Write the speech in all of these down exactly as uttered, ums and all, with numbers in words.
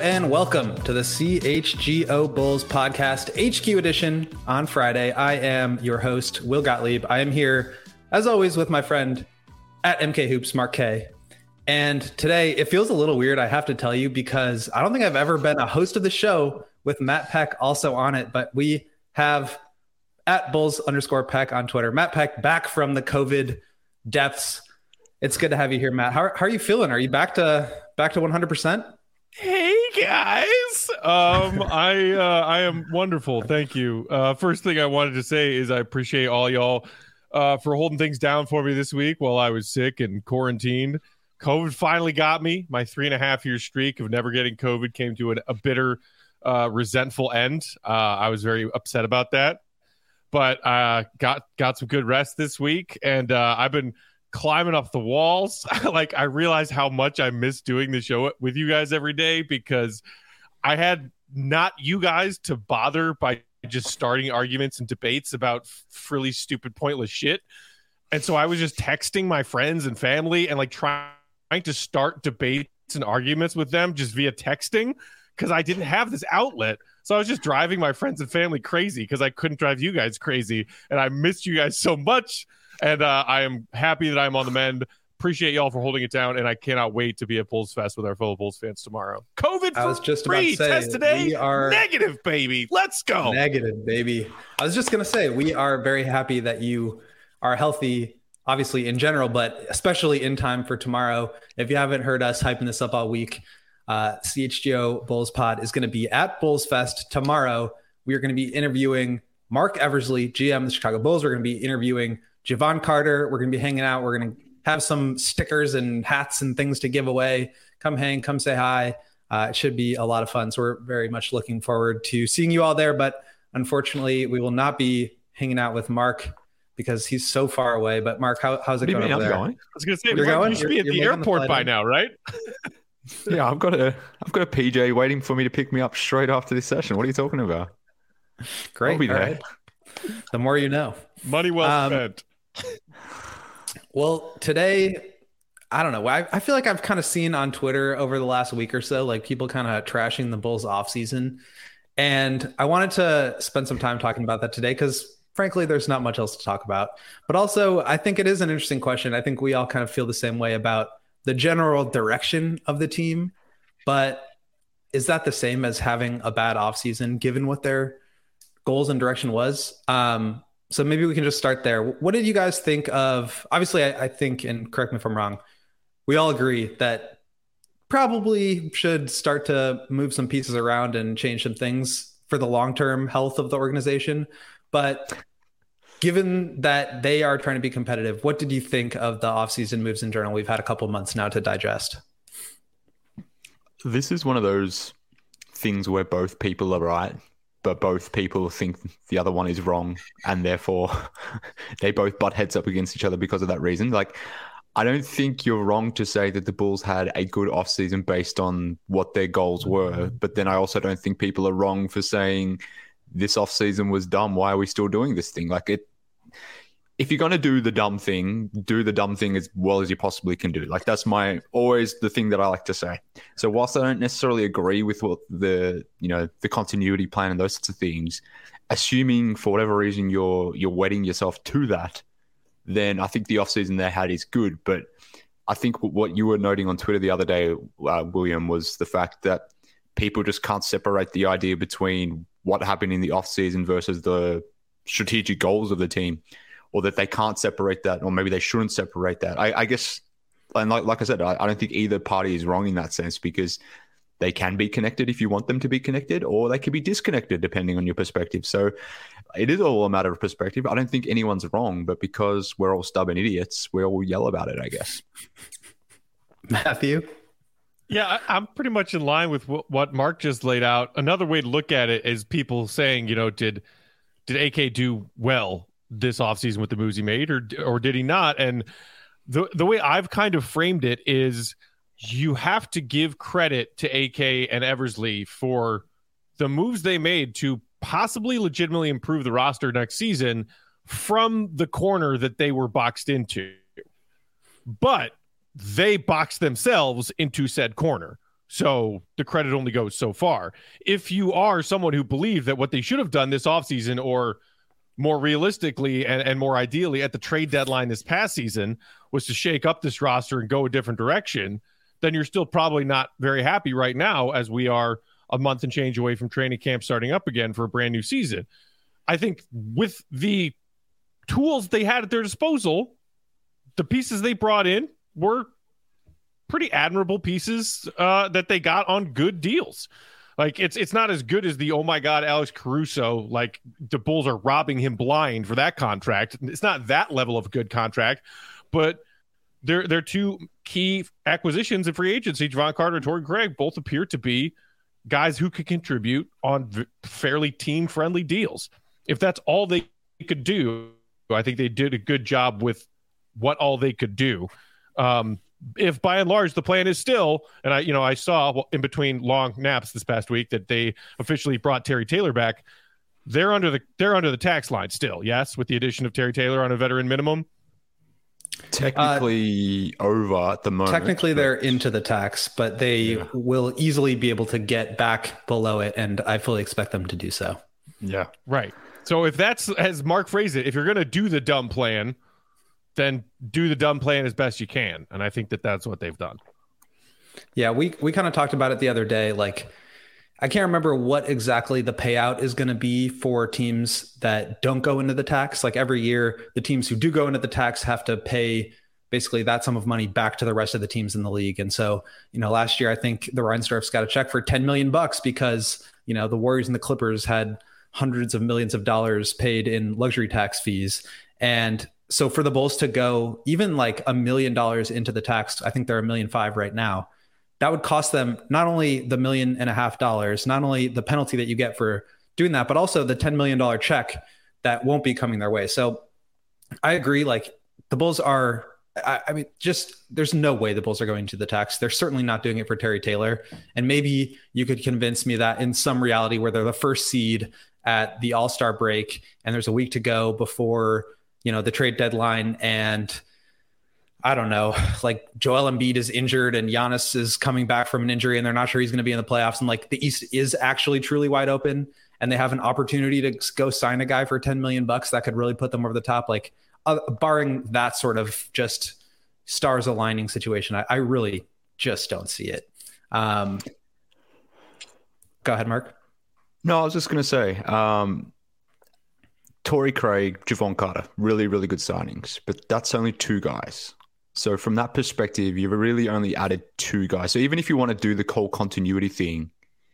and welcome to the C H G O Bulls podcast, H Q edition on Friday. I am your host, Will Gottlieb. I am here, as always, with my friend at M K Hoops, Mark K. And today, it feels a little weird, I have to tell you, because I don't think I've ever been a host of the show with Matt Peck also on it, but we have at Bulls underscore Peck on Twitter, Matt Peck back from the COVID depths. It's good to have you here, Matt. How, how are you feeling? Are you back to back to one hundred percent? Hey guys, um, I uh, I am wonderful, thank you. Uh, first thing I wanted to say is I appreciate all y'all uh, for holding things down for me this week while I was sick and quarantined. COVID finally got me. My three and a half year streak of never getting COVID came to an, a bitter, uh, resentful end. Uh, I was very upset about that, but uh, got got some good rest this week, and uh, I've been climbing up the walls. Like, I realized how much I miss doing the show with you guys every day, because I had not you guys to bother by just starting arguments and debates about frilly, stupid, pointless shit. And so I was just texting my friends and family and like trying to start debates and arguments with them just via texting, because I didn't have this outlet. So I was just driving my friends and family crazy because I couldn't drive you guys crazy. And I missed you guys so much. And uh, I am happy that I'm on the mend. Appreciate y'all for holding it down, and I cannot wait to be at Bulls Fest with our fellow Bulls fans tomorrow. COVID I was just free. about to say, Test today. we are negative, baby. Let's go. Negative, baby. I was just going to say, we are very happy that you are healthy, obviously in general, but especially in time for tomorrow. If you haven't heard us hyping this up all week, uh, C H G O Bulls Pod is going to be at Bulls Fest tomorrow. We are going to be interviewing Marc Eversley, G M of the Chicago Bulls. We're going to be interviewing Jevon Carter. We're going to be hanging out. We're going to have some stickers and hats and things to give away. Come hang, come say hi. Uh, it should be a lot of fun. So we're very much looking forward to seeing you all there. But unfortunately, we will not be hanging out with Mark because he's so far away. But Mark, how, how's it going over there? Going? I was going to say, you're Mark, going? you should be you're, at the airport the by in. now, right? Yeah, I've got a, I've got a P J waiting for me to pick me up straight after this session. What are you talking about? Great. I'll be there. Right. The more you know. Money well um, spent. Well, today, I don't know. I, I feel like I've kind of seen on Twitter over the last week or so, like people kind of trashing the Bulls offseason. And I wanted to spend some time talking about that today because, frankly, there's not much else to talk about. But also, I think it is an interesting question. I think we all kind of feel the same way about the general direction of the team. But is that the same as having a bad offseason, given what their goals and direction was? Um, So maybe we can just start there. What did you guys think of? Obviously, I, I think, and correct me if I'm wrong, we all agree that probably should start to move some pieces around and change some things for the long-term health of the organization. But given that they are trying to be competitive, what did you think of the offseason moves in general? We've had a couple months now to digest. This is one of those things where both people are right, but both people think the other one is wrong, and therefore they both butt heads up against each other because of that reason. Like, I don't think you're wrong to say that the Bulls had a good offseason based on what their goals were, but then I also don't think people are wrong for saying this offseason was dumb. Why are we still doing this thing? Like, it, if you're going to do the dumb thing, do the dumb thing as well as you possibly can do. Like, that's my always the thing that I like to say. So whilst I don't necessarily agree with what the, you know, the continuity plan and those sorts of things, assuming for whatever reason you're you're wedding yourself to that, then I think the offseason they had is good. But I think what you were noting on Twitter the other day, uh, William, was the fact that people just can't separate the idea between what happened in the offseason versus the strategic goals of the team, or that they can't separate that, or maybe they shouldn't separate that. I, I guess, and like, like I said, I, I don't think either party is wrong in that sense, because they can be connected if you want them to be connected, or they can be disconnected depending on your perspective. So it is all a matter of perspective. I don't think anyone's wrong, but because we're all stubborn idiots, we all yell about it, I guess. Matthew? Yeah, I, I'm pretty much in line with what, what Mark just laid out. Another way to look at it is people saying, you know, did did A K do well this offseason with the moves he made, or or did he not? And the the way I've kind of framed it is, you have to give credit to A K and Eversley for the moves they made to possibly legitimately improve the roster next season from the corner that they were boxed into. But they boxed themselves into said corner. So the credit only goes so far. If you are someone who believes that what they should have done this offseason, or more realistically and, and more ideally at the trade deadline this past season, was to shake up this roster and go a different direction, then you're still probably not very happy right now, as we are a month and change away from training camp starting up again for a brand new season. I think with the tools they had at their disposal, the pieces they brought in were pretty admirable pieces uh, that they got on good deals. Like, it's it's not as good as the, oh my God, Alex Caruso, like the Bulls are robbing him blind for that contract. It's not that level of good contract, but they're, they're two key acquisitions in free agency. Javon Carter and Torrey Craig both appear to be guys who could contribute on v- fairly team-friendly deals. If that's all they could do, I think they did a good job with what all they could do. Um, if by and large the plan is still, and I, you know, I saw in between long naps this past week that they officially brought Terry Taylor back. They're under the they're under the tax line still, yes, with the addition of Terry Taylor on a veteran minimum. Technically uh, over at the moment. Technically, but... they're into the tax, but they yeah. will easily be able to get back below it, and I fully expect them to do so. Yeah, right. So if that's, as Mark phrased it, if you're going to do the dumb plan, then do the dumb plan as best you can, and I think that that's what they've done. Yeah, we we kind of talked about it the other day. Like, I can't remember what exactly the payout is going to be for teams that don't go into the tax. Like, every year, the teams who do go into the tax have to pay basically that sum of money back to the rest of the teams in the league. And so, you know, last year, I think the Reinsdorfs got a check for ten million bucks because, you know, the Warriors and the Clippers had hundreds of millions of dollars paid in luxury tax fees. And so for the Bulls to go even like a million dollars into the tax, I think they're a million five right now. That would cost them not only the million and a half dollars, not only the penalty that you get for doing that, but also the ten million dollars check that won't be coming their way. So I agree. Like, the Bulls are, I, I mean, just, there's no way the Bulls are going to the tax. They're certainly not doing it for Terry Taylor. And maybe you could convince me that in some reality where they're the first seed at the All-Star break and there's a week to go before, you know, the trade deadline, and I don't know, like Joel Embiid is injured and Giannis is coming back from an injury and they're not sure he's going to be in the playoffs. And like, the East is actually truly wide open and they have an opportunity to go sign a guy for ten million bucks that could really put them over the top. Like, uh, barring that sort of just stars aligning situation, I, I really just don't see it. Um, go ahead, Mark. No, I was just going to say, um, Torrey Craig, Javon Carter, really, really good signings, but that's only two guys. So from that perspective, you've really only added two guys. So even if you want to do the whole continuity thing,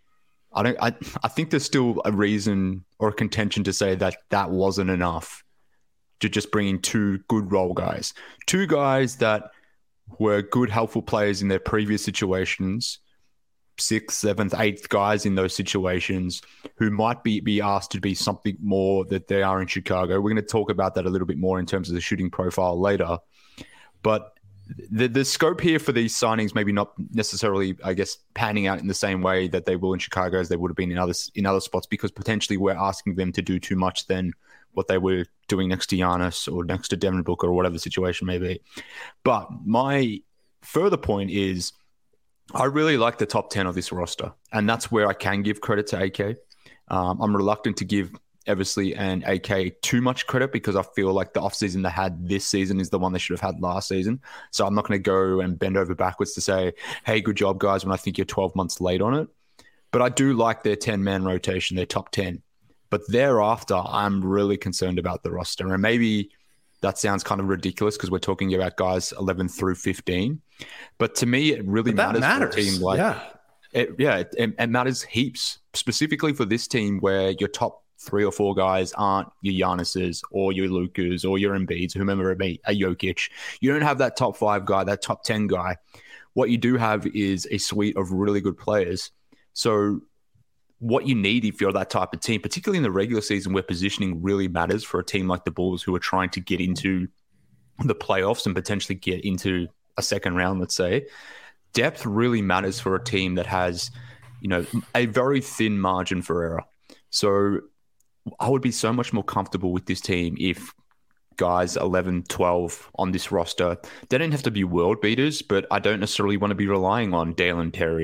I don't. I, I think there's still a reason or a contention to say that that wasn't enough to just bring in two good role guys, two guys that were good, helpful players in their previous situations, sixth, seventh, eighth guys in those situations who might be, be asked to be something more that they are in Chicago. We're going to talk about that a little bit more in terms of the shooting profile later. But the the scope here for these signings maybe not necessarily, I guess, panning out in the same way that they will in Chicago as they would have been in other, in other spots, because potentially we're asking them to do too much than what they were doing next to Giannis or next to Devin Booker or whatever the situation may be. But my further point is, I really like the top ten of this roster, and that's where I can give credit to A K. Um, I'm reluctant to give Eversley and A K too much credit because I feel like the offseason they had this season is the one they should have had last season. So I'm not going to go and bend over backwards to say, hey, good job, guys, when I think you're twelve months late on it. But I do like their ten-man rotation, their top ten. But thereafter, I'm really concerned about the roster. And maybe that sounds kind of ridiculous because we're talking about guys eleven through fifteen. But to me, it really matters, matters for a team like yeah. It, yeah, it, it matters heaps, specifically for this team where your top three or four guys aren't your Giannis's or your Lukas or your Embiids, whomever it be, a Jokic. You don't have that top five guy, that top ten guy. What you do have is a suite of really good players. So what you need if you're that type of team, particularly in the regular season where positioning really matters for a team like the Bulls who are trying to get into the playoffs and potentially get into a second round, let's say, depth really matters for a team that has, you know, a very thin margin for error. So I would be so much more comfortable with this team if guys eleven, twelve on this roster, they don't have to be world beaters, but I don't necessarily want to be relying on Dalen Terry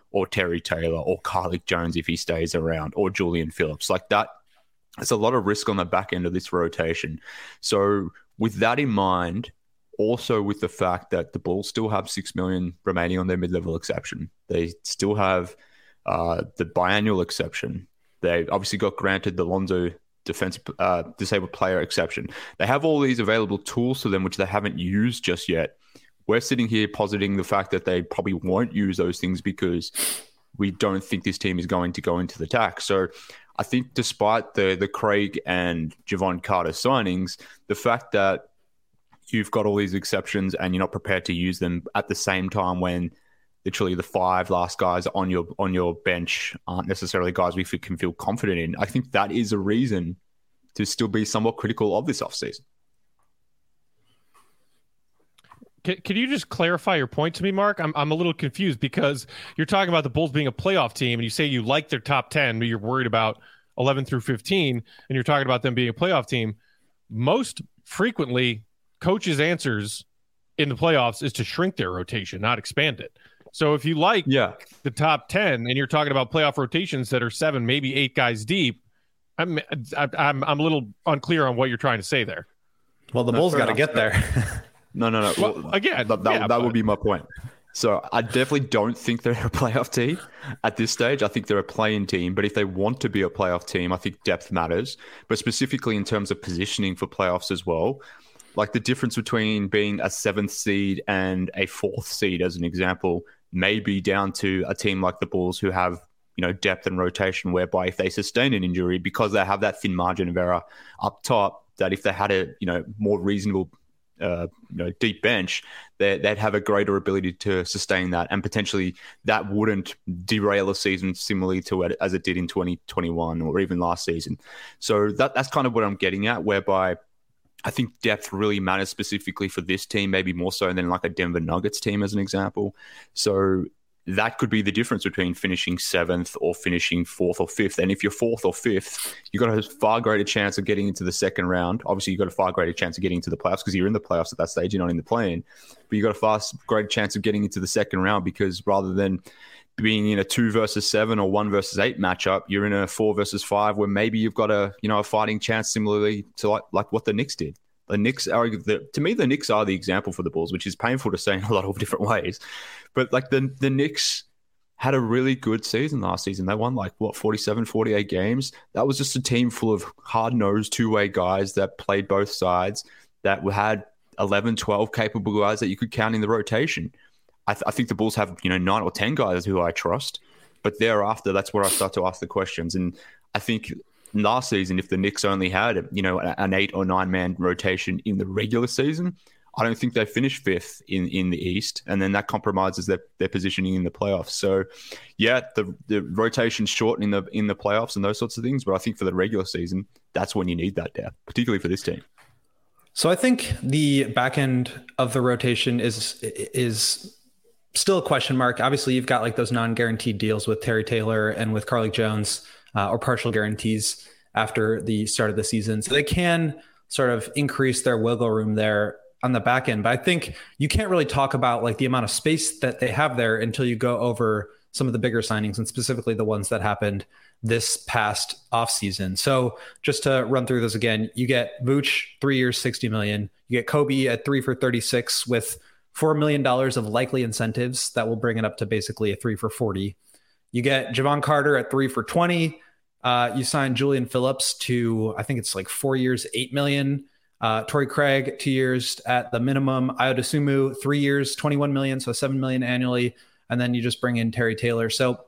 or Terry Taylor or Carlik Jones if he stays around, or Julian Phillips. Like that, there's a lot of risk on the back end of this rotation. So with that in mind, also with the fact that the Bulls still have six million remaining on their mid-level exception, they still have uh, the biannual exception. They obviously got granted the Lonzo defensive uh, disabled player exception. They have all these available tools to them, which they haven't used just yet. We're sitting here positing the fact that they probably won't use those things because we don't think this team is going to go into the attack. So I think despite the the Craig and Javon Carter signings, the fact that you've got all these exceptions and you're not prepared to use them at the same time when literally the five last guys on your on your bench aren't necessarily guys we can feel confident in, I think that is a reason to still be somewhat critical of this offseason. Can, can you just clarify your point to me, Mark? I'm I'm a little confused because you're talking about the Bulls being a playoff team and you say you like their top ten, but you're worried about eleven through fifteen, and you're talking about them being a playoff team. Most frequently, coaches' answers in the playoffs is to shrink their rotation, not expand it. So if you like yeah. the top ten and you're talking about playoff rotations that are seven, maybe eight guys deep, I'm I'm I'm a little unclear on what you're trying to say there. Well, the No, Bulls fair got to enough. get there. No, no, no. Well, Well, again, that, that, yeah, that but- would be my point. So I definitely don't think they're a playoff team at this stage. I think they're a play-in team. But if they want to be a playoff team, I think depth matters. But specifically in terms of positioning for playoffs as well, like the difference between being a seventh seed and a fourth seed, as an example, may be down to a team like the Bulls who have, you know, depth and rotation, whereby if they sustain an injury, because they have that thin margin of error up top, that if they had a, you know, more reasonable, uh, you know, deep bench, they, they'd have a greater ability to sustain that, and potentially that wouldn't derail a season similarly to it as it did in twenty twenty-one or even last season. So that that's kind of what I'm getting at, whereby I think depth really matters specifically for this team, maybe more so than like a Denver Nuggets team, as an example. So that could be the difference between finishing seventh or finishing fourth or fifth. And if you're fourth or fifth, you've got a far greater chance of getting into the second round. Obviously, you've got a far greater chance of getting into the playoffs because you're in the playoffs at that stage, you're not in the play-in. But you've got a far greater chance of getting into the second round because rather than being in a two versus seven or one versus eight matchup, you're in a four versus five where maybe you've got a, you know, a fighting chance similarly to like, like what the Knicks did. The Knicks are, the, to me, the Knicks are the example for the Bulls, which is painful to say in a lot of different ways. But like the, the Knicks had a really good season last season. They won like, what, forty-seven, forty-eight games. That was just a team full of hard-nosed two-way guys that played both sides, that had eleven, twelve capable guys that you could count in the rotation. I, th- I think the Bulls have, you know, nine or ten guys who I trust, but thereafter, that's where I start to ask the questions. And I think last season, if the Knicks only had, you know, an eight or nine man rotation in the regular season, I don't think they finished fifth in, in the East, and then that compromises their, their positioning in the playoffs. So, yeah, the the rotation's short in the in the playoffs and those sorts of things, but I think for the regular season, that's when you need that depth, particularly for this team. So I think the back end of the rotation is is still a question mark. Obviously, you've got like those non-guaranteed deals with Terry Taylor and with Carlik Jones, uh, or partial guarantees after the start of the season. So they can sort of increase their wiggle room there on the back end. But I think you can't really talk about like the amount of space that they have there until you go over some of the bigger signings, and specifically the ones that happened this past offseason. So just to run through those again, you get Vooch, three years, sixty million. You get Kobe at three for thirty-six with four million dollars of likely incentives that will bring it up to basically a three for forty. You get Javon Carter at three for twenty. Uh, you sign Julian Phillips to, I think it's like four years, eight million. Uh, Torrey Craig, two years at the minimum. Ayo Dosunmu, three years, twenty-one million, so seven million annually. And then you just bring in Terry Taylor. So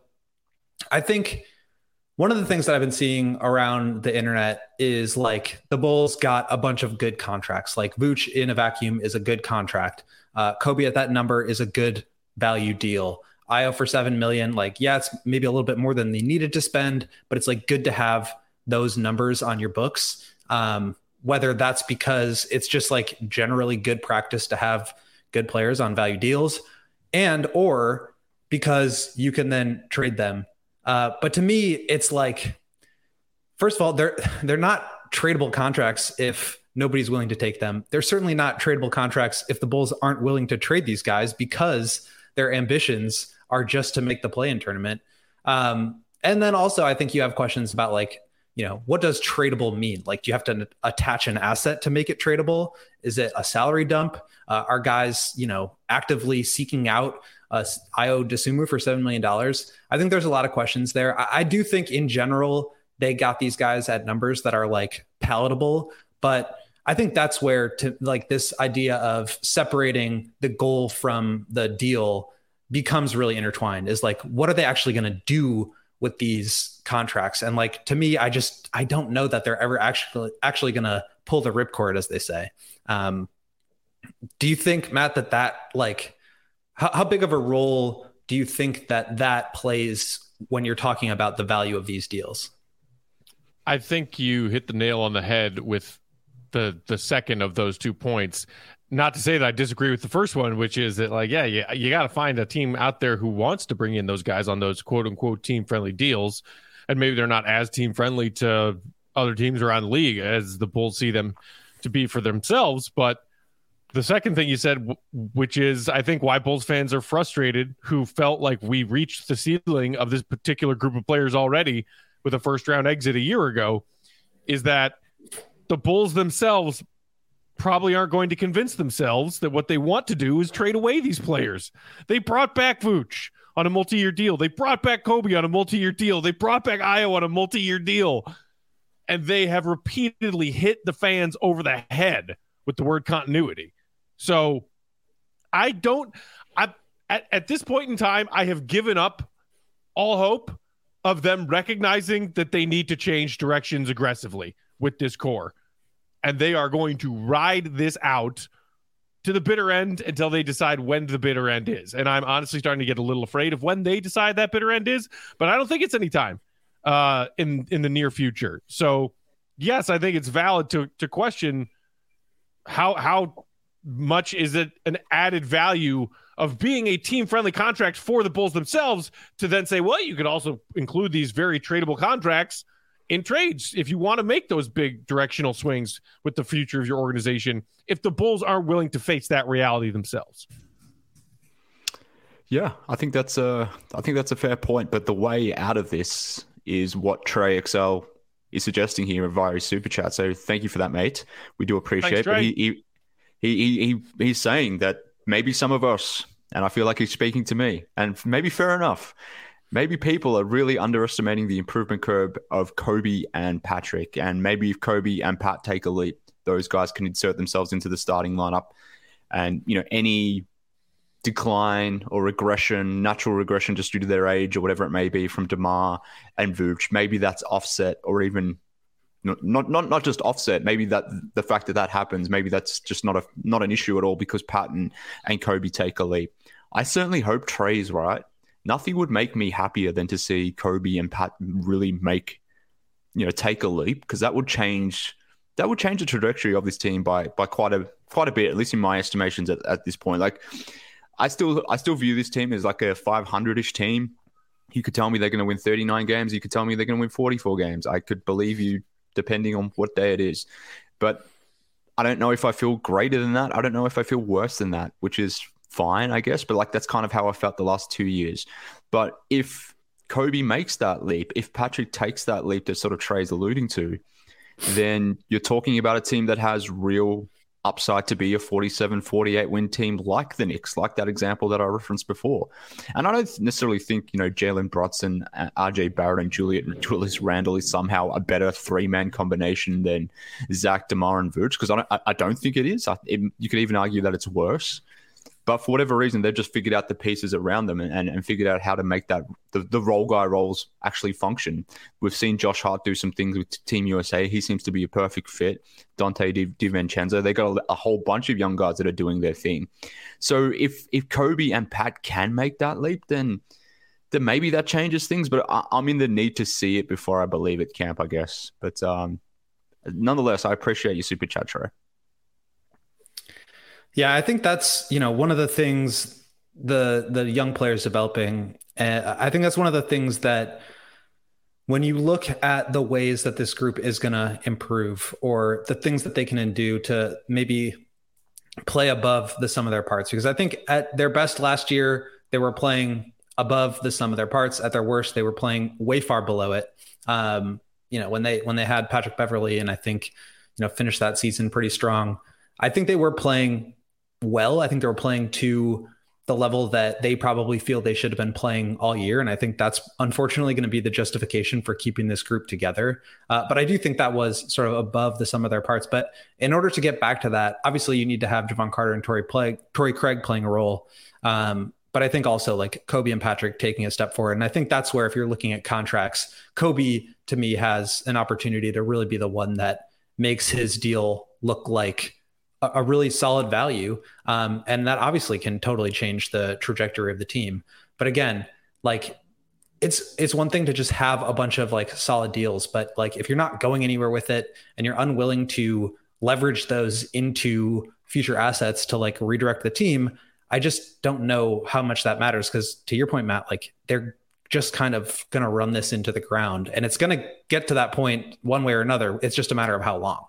I think one of the things that I've been seeing around the internet is like the Bulls got a bunch of good contracts. Like Vooch in a vacuum is a good contract. Uh, Kobe at that number is a good value deal. Ayo for seven million. Like, yeah, it's maybe a little bit more than they needed to spend, but it's like good to have those numbers on your books. Um, whether that's because it's just like generally good practice to have good players on value deals, and or because you can then trade them. Uh, but to me, it's like, first of all, they're they're not tradable contracts if nobody's willing to take them. They're certainly not tradable contracts if the Bulls aren't willing to trade these guys because their ambitions are just to make the play-in tournament. Um, and then also I think you have questions about like, you know, what does tradable mean? Like, do you have to attach an asset to make it tradable? Is it a salary dump? Uh, are guys, you know, actively seeking out uh, Ayo Dosunmu for seven million dollars? I think there's a lot of questions there. I, I do think in general, they got these guys at numbers that are like palatable, but I think that's where to like this idea of separating the goal from the deal becomes really intertwined, is like, what are they actually going to do with these contracts? And like, to me, I just, I don't know that they're ever actually, actually going to pull the ripcord, as they say. Um, do you think, Matt, that that like, how, how big of a role do you think that that plays when you're talking about the value of these deals? I think you hit the nail on the head with the the second of those two points. Not to say that I disagree with the first one, which is that like, yeah, you, you got to find a team out there who wants to bring in those guys on those quote unquote team friendly deals. And maybe they're not as team friendly to other teams around the league as the Bulls see them to be for themselves. But the second thing you said, which is, I think why Bulls fans are frustrated, who felt like we reached the ceiling of this particular group of players already with a first round exit a year ago, is that the Bulls themselves probably aren't going to convince themselves that what they want to do is trade away these players. They brought back Vooch on a multi-year deal. They brought back Kobe on a multi-year deal. They brought back Ayo on a multi-year deal. And they have repeatedly hit the fans over the head with the word continuity. So I don't, I at, at this point in time, I have given up all hope of them recognizing that they need to change directions aggressively with this core. And they are going to ride this out to the bitter end until they decide when the bitter end is. And I'm honestly starting to get a little afraid of when they decide that bitter end is, but I don't think it's any time uh, in, in the near future. So yes, I think it's valid to, to question how, how much is it an added value of being a team-friendly contract for the Bulls themselves to then say, well, you could also include these very tradable contracts in trades if you want to make those big directional swings with the future of your organization, if the Bulls aren't willing to face that reality themselves. Yeah, I think that's a, I think that's a fair point. But the way out of this is what Trey X L is suggesting here via his super chat. So thank you for that, mate. We do appreciate it. But he, he, he, he, he's saying that maybe some of us, and I feel like he's speaking to me, and maybe fair enough, maybe people are really underestimating the improvement curve of Kobe and Patrick. And maybe if Kobe and Pat take a leap, those guys can insert themselves into the starting lineup. And, you know, any decline or regression, natural regression just due to their age or whatever it may be from DeMar and Vooch, maybe that's offset, or even not, not, not, not just offset. Maybe that the fact that that happens, maybe that's just not a, not an issue at all because Pat and, and Kobe take a leap. I certainly hope Trey's right. Nothing would make me happier than to see Kobe and Pat really make, you know, take a leap, because that would change that would change the trajectory of this team by by quite a quite a bit, at least in my estimations at, at this point. Like, I still I still view this team as like a five hundred-ish team. You could tell me they're going to win thirty-nine games. You could tell me they're going to win forty-four games. I could believe you depending on what day it is. But I don't know if I feel greater than that. I don't know if I feel worse than that, which is fine, I guess, but like that's kind of how I felt the last two years. But if Kobe makes that leap, if Patrick takes that leap that sort of Trey's alluding to, then you're talking about a team that has real upside to be a forty-seven, forty-eight win team like the Knicks, like that example that I referenced before. And I don't necessarily think, you know, Jalen Brunson, R J Barrett, and Juliet Julius Randle is somehow a better three-man combination than Zach, DeMar, and Vooch, because I don't, I don't think it is. I, it, you could even argue that it's worse. But for whatever reason, they've just figured out the pieces around them and, and, and figured out how to make that the, the role guy roles actually function. We've seen Josh Hart do some things with Team U S A. He seems to be a perfect fit. Dante Di, DiVincenzo. They got a, a whole bunch of young guys that are doing their thing. So if if Kobe and Pat can make that leap, then then maybe that changes things. But I, I'm in the need to see it before I believe it, Camp, I guess. But um, nonetheless, I appreciate your super chat, Trey. Yeah, I think that's, you know, one of the things the the young players developing. Uh, I think that's one of the things that when you look at the ways that this group is going to improve, or the things that they can do to maybe play above the sum of their parts, because I think at their best last year, they were playing above the sum of their parts. At their worst, they were playing way far below it. Um, you know, when they when they had Patrick Beverley, and I think, you know, finished that season pretty strong. I think they were playing well. I think they were playing to the level that they probably feel they should have been playing all year. And I think that's unfortunately going to be the justification for keeping this group together. Uh, but I do think that was sort of above the sum of their parts. But in order to get back to that, obviously you need to have Jevon Carter and Torrey, play, Torrey Craig playing a role. Um, but I think also like Kobe and Patrick taking a step forward. And I think that's where, if you're looking at contracts, Kobe to me has an opportunity to really be the one that makes his deal look like a really solid value. Um, and that obviously can totally change the trajectory of the team. But again, like it's, it's one thing to just have a bunch of like solid deals, but like, if you're not going anywhere with it and you're unwilling to leverage those into future assets to like redirect the team, I just don't know how much that matters. Cause to your point, Matt, like they're just kind of going to run this into the ground, and it's going to get to that point one way or another. It's just a matter of how long.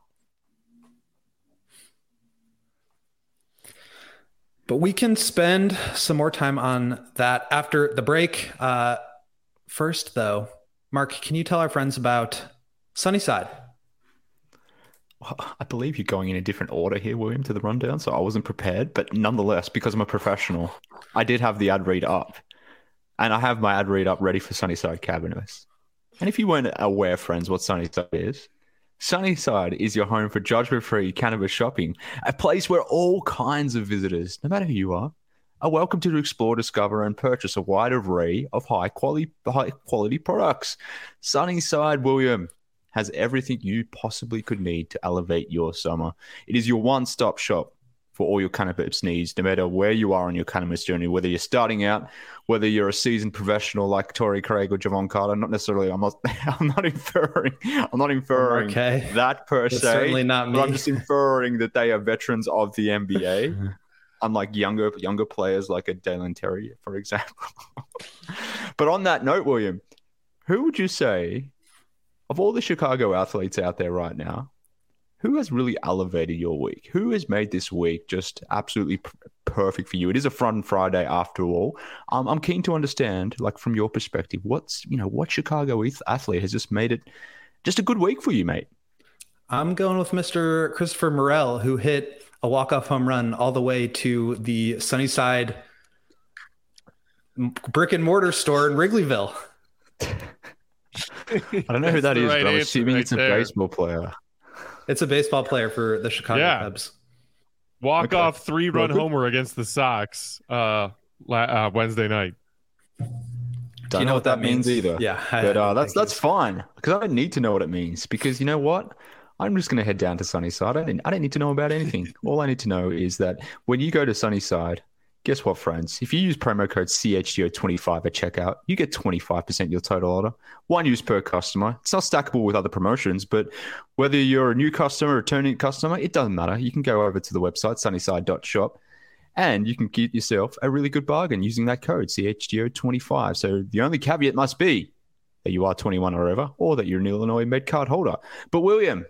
But we can spend some more time on that after the break. Uh, first, though, Mark, can you tell our friends about Sunnyside? Well, I believe you're going in a different order here, William, to the rundown, so I wasn't prepared. But nonetheless, because I'm a professional, I did have the ad read up. And I have my ad read up ready for Sunnyside Cannabis. And if you weren't aware, friends, what Sunnyside is, Sunnyside is your home for judgment-free cannabis shopping, a place where all kinds of visitors, no matter who you are, are welcome to explore, discover, and purchase a wide array of high-quality high-quality products. Sunnyside, William, has everything you possibly could need to elevate your summer. It is your one-stop shop for all your cannabis needs, no matter where you are on your cannabis journey, whether you're starting out, whether you're a seasoned professional like Torrey Craig or Jevon Carter. Not necessarily, I'm not, I'm not inferring, I'm not inferring okay. that per That's se. certainly not me. But I'm just inferring that they are veterans of the N B A, unlike younger, younger players like a Dalen Terry, for example. But on that note, William, who would you say, of all the Chicago athletes out there right now, who has really elevated your week? Who has made this week just absolutely p- perfect for you? It is a fun Friday after all. Um, I'm keen to understand, like from your perspective, what's, you know, what Chicago athlete has just made it just a good week for you, mate? I'm going with Mister Christopher Morel, who hit a walk-off home run all the way to the Sunnyside brick and mortar store in Wrigleyville. I don't know who that is, right, but I'm assuming right it's a there. baseball player. It's a baseball player for the Chicago yeah. Cubs. Walk okay. off three run well, homer against the Sox uh, uh, Wednesday night. Don't Do you know, know what that means, means either. Yeah, but uh, that's that's fine because I don't need to know what it means, because you know what? I'm just going to head down to Sunnyside. I didn't, I don't need to know about anything. All I need to know is that when you go to Sunnyside, guess what, friends? If you use promo code C H G O twenty-five at checkout, you get twenty-five percent your total order. One use per customer. It's not stackable with other promotions, but whether you're a new customer or returning customer, it doesn't matter. You can go over to the website, sunnyside dot shop, and you can get yourself a really good bargain using that code, C H G O twenty-five. So the only caveat must be that you are twenty-one or over, or that you're an Illinois Med card holder. But William,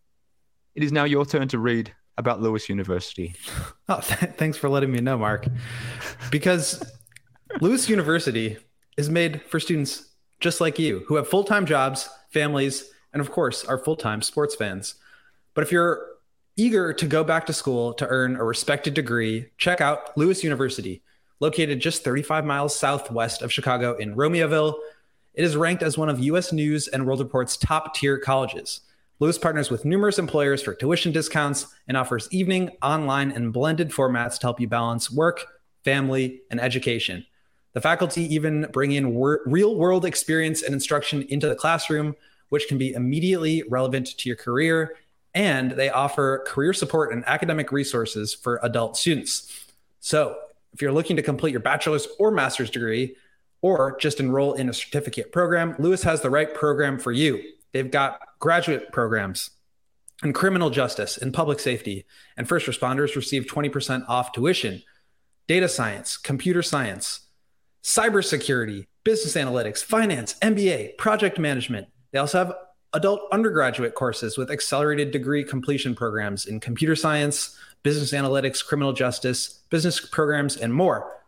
it is now your turn to read about Lewis University. Oh, th- thanks for letting me know, Mark. Because Lewis University is made for students just like you, who have full-time jobs, families, and of course, are full-time sports fans. But if you're eager to go back to school to earn a respected degree, check out Lewis University, located just thirty-five miles southwest of Chicago in Romeoville. It is ranked as one of U S News and World Report's top-tier colleges. Lewis partners with numerous employers for tuition discounts and offers evening, online, and blended formats to help you balance work, family, and education. The faculty even bring in wor- real-world experience and instruction into the classroom, which can be immediately relevant to your career, and they offer career support and academic resources for adult students. So if you're looking to complete your bachelor's or master's degree, or just enroll in a certificate program, Lewis has the right program for you. They've got graduate programs in criminal justice and public safety, and first responders receive twenty percent off tuition, data science, computer science, cybersecurity, business analytics, finance, M B A, project management. They also have adult undergraduate courses with accelerated degree completion programs in computer science, business analytics, criminal justice, business programs, and more.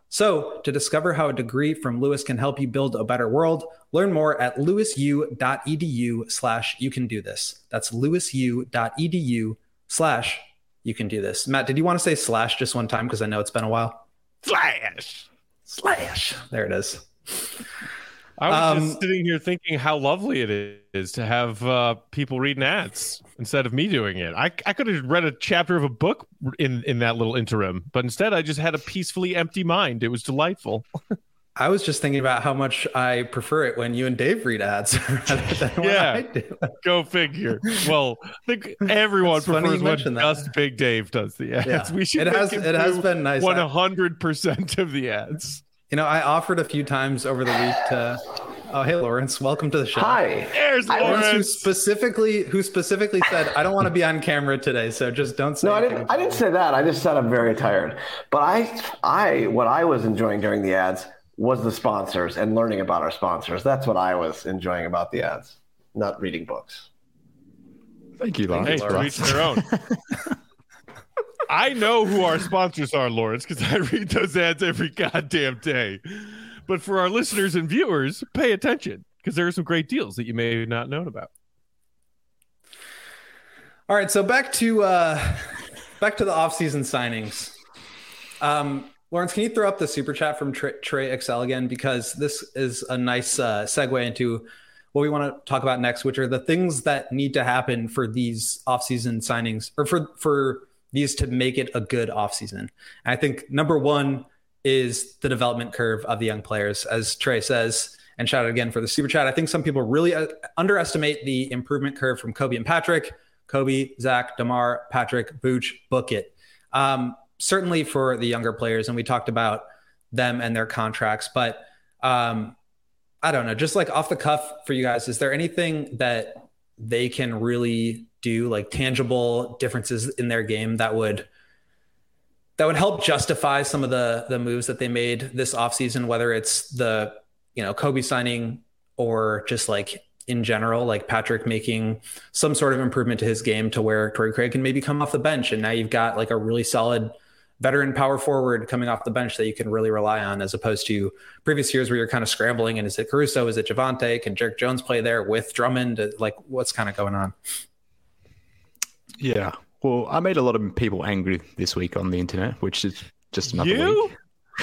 So, to discover how a degree from Lewis can help you build a better world, learn more at lewisu.edu slash you can do this. That's lewisu.edu slash you can do this. Matt, did you want to say slash just one time? Because I know it's been a while. Slash. Slash. There it is. I was Um, just sitting here thinking how lovely it is to have uh, people reading ads instead of me doing it. I, I could have read a chapter of a book in, in that little interim, but instead I just had a peacefully empty mind. It was delightful. I was just thinking about how much I prefer it when you and Dave read ads rather than when Yeah. I do. Go figure. Well, I think everyone It's funny prefers you when mentioned that. just Big Dave does the ads. Yeah. We should It has- make him it has do been nice. one hundred percent of the ads. You know, I offered a few times over the week to. Oh, hey, Lawrence, welcome to the show. Hi. There's Lawrence, who Lawrence. specifically who specifically said, "I don't want to be on camera today, so just don't say." No, I anything." didn't. I didn't say that. I just said I'm very tired. But I, I, what I was enjoying during the ads was the sponsors and learning about our sponsors. That's what I was enjoying about the ads, not reading books. Thank you, Lawrence. Hey, to Lawrence. each their own. I know who our sponsors are, Lawrence, because I read those ads every goddamn day. But for our listeners and viewers, pay attention because there are some great deals that you may have not known about. All right, so back to uh, back to the offseason signings. Um, Lawrence, can you throw up the super chat from Trey, Trey Excel again? Because this is a nice uh, segue into what we want to talk about next, which are the things that need to happen for these offseason signings, or for for these to make it a good offseason. And I think number one is the development curve of the young players, as Trey says, and shout out again for the super chat. I think some people really uh, underestimate the improvement curve from Kobe and Patrick. Kobe, Zach, DeMar, Patrick, Vooch, book it. Um, certainly for the younger players, and we talked about them and their contracts, but um, I don't know, just like off the cuff for you guys, is there anything that they can really do, like tangible differences in their game that would that would help justify some of the the moves that they made this offseason, whether it's the, you know, Kobe signing or just like in general, like Patrick making some sort of improvement to his game to where Torrey Craig can maybe come off the bench. And now you've got like a really solid veteran power forward coming off the bench that you can really rely on, as opposed to previous years where you're kind of scrambling. And is it Caruso? Is it Javante? Can Jerick Jones play there with Drummond? Like, what's kind of going on? Yeah. Well, I made a lot of people angry this week on the internet, which is just another You? week.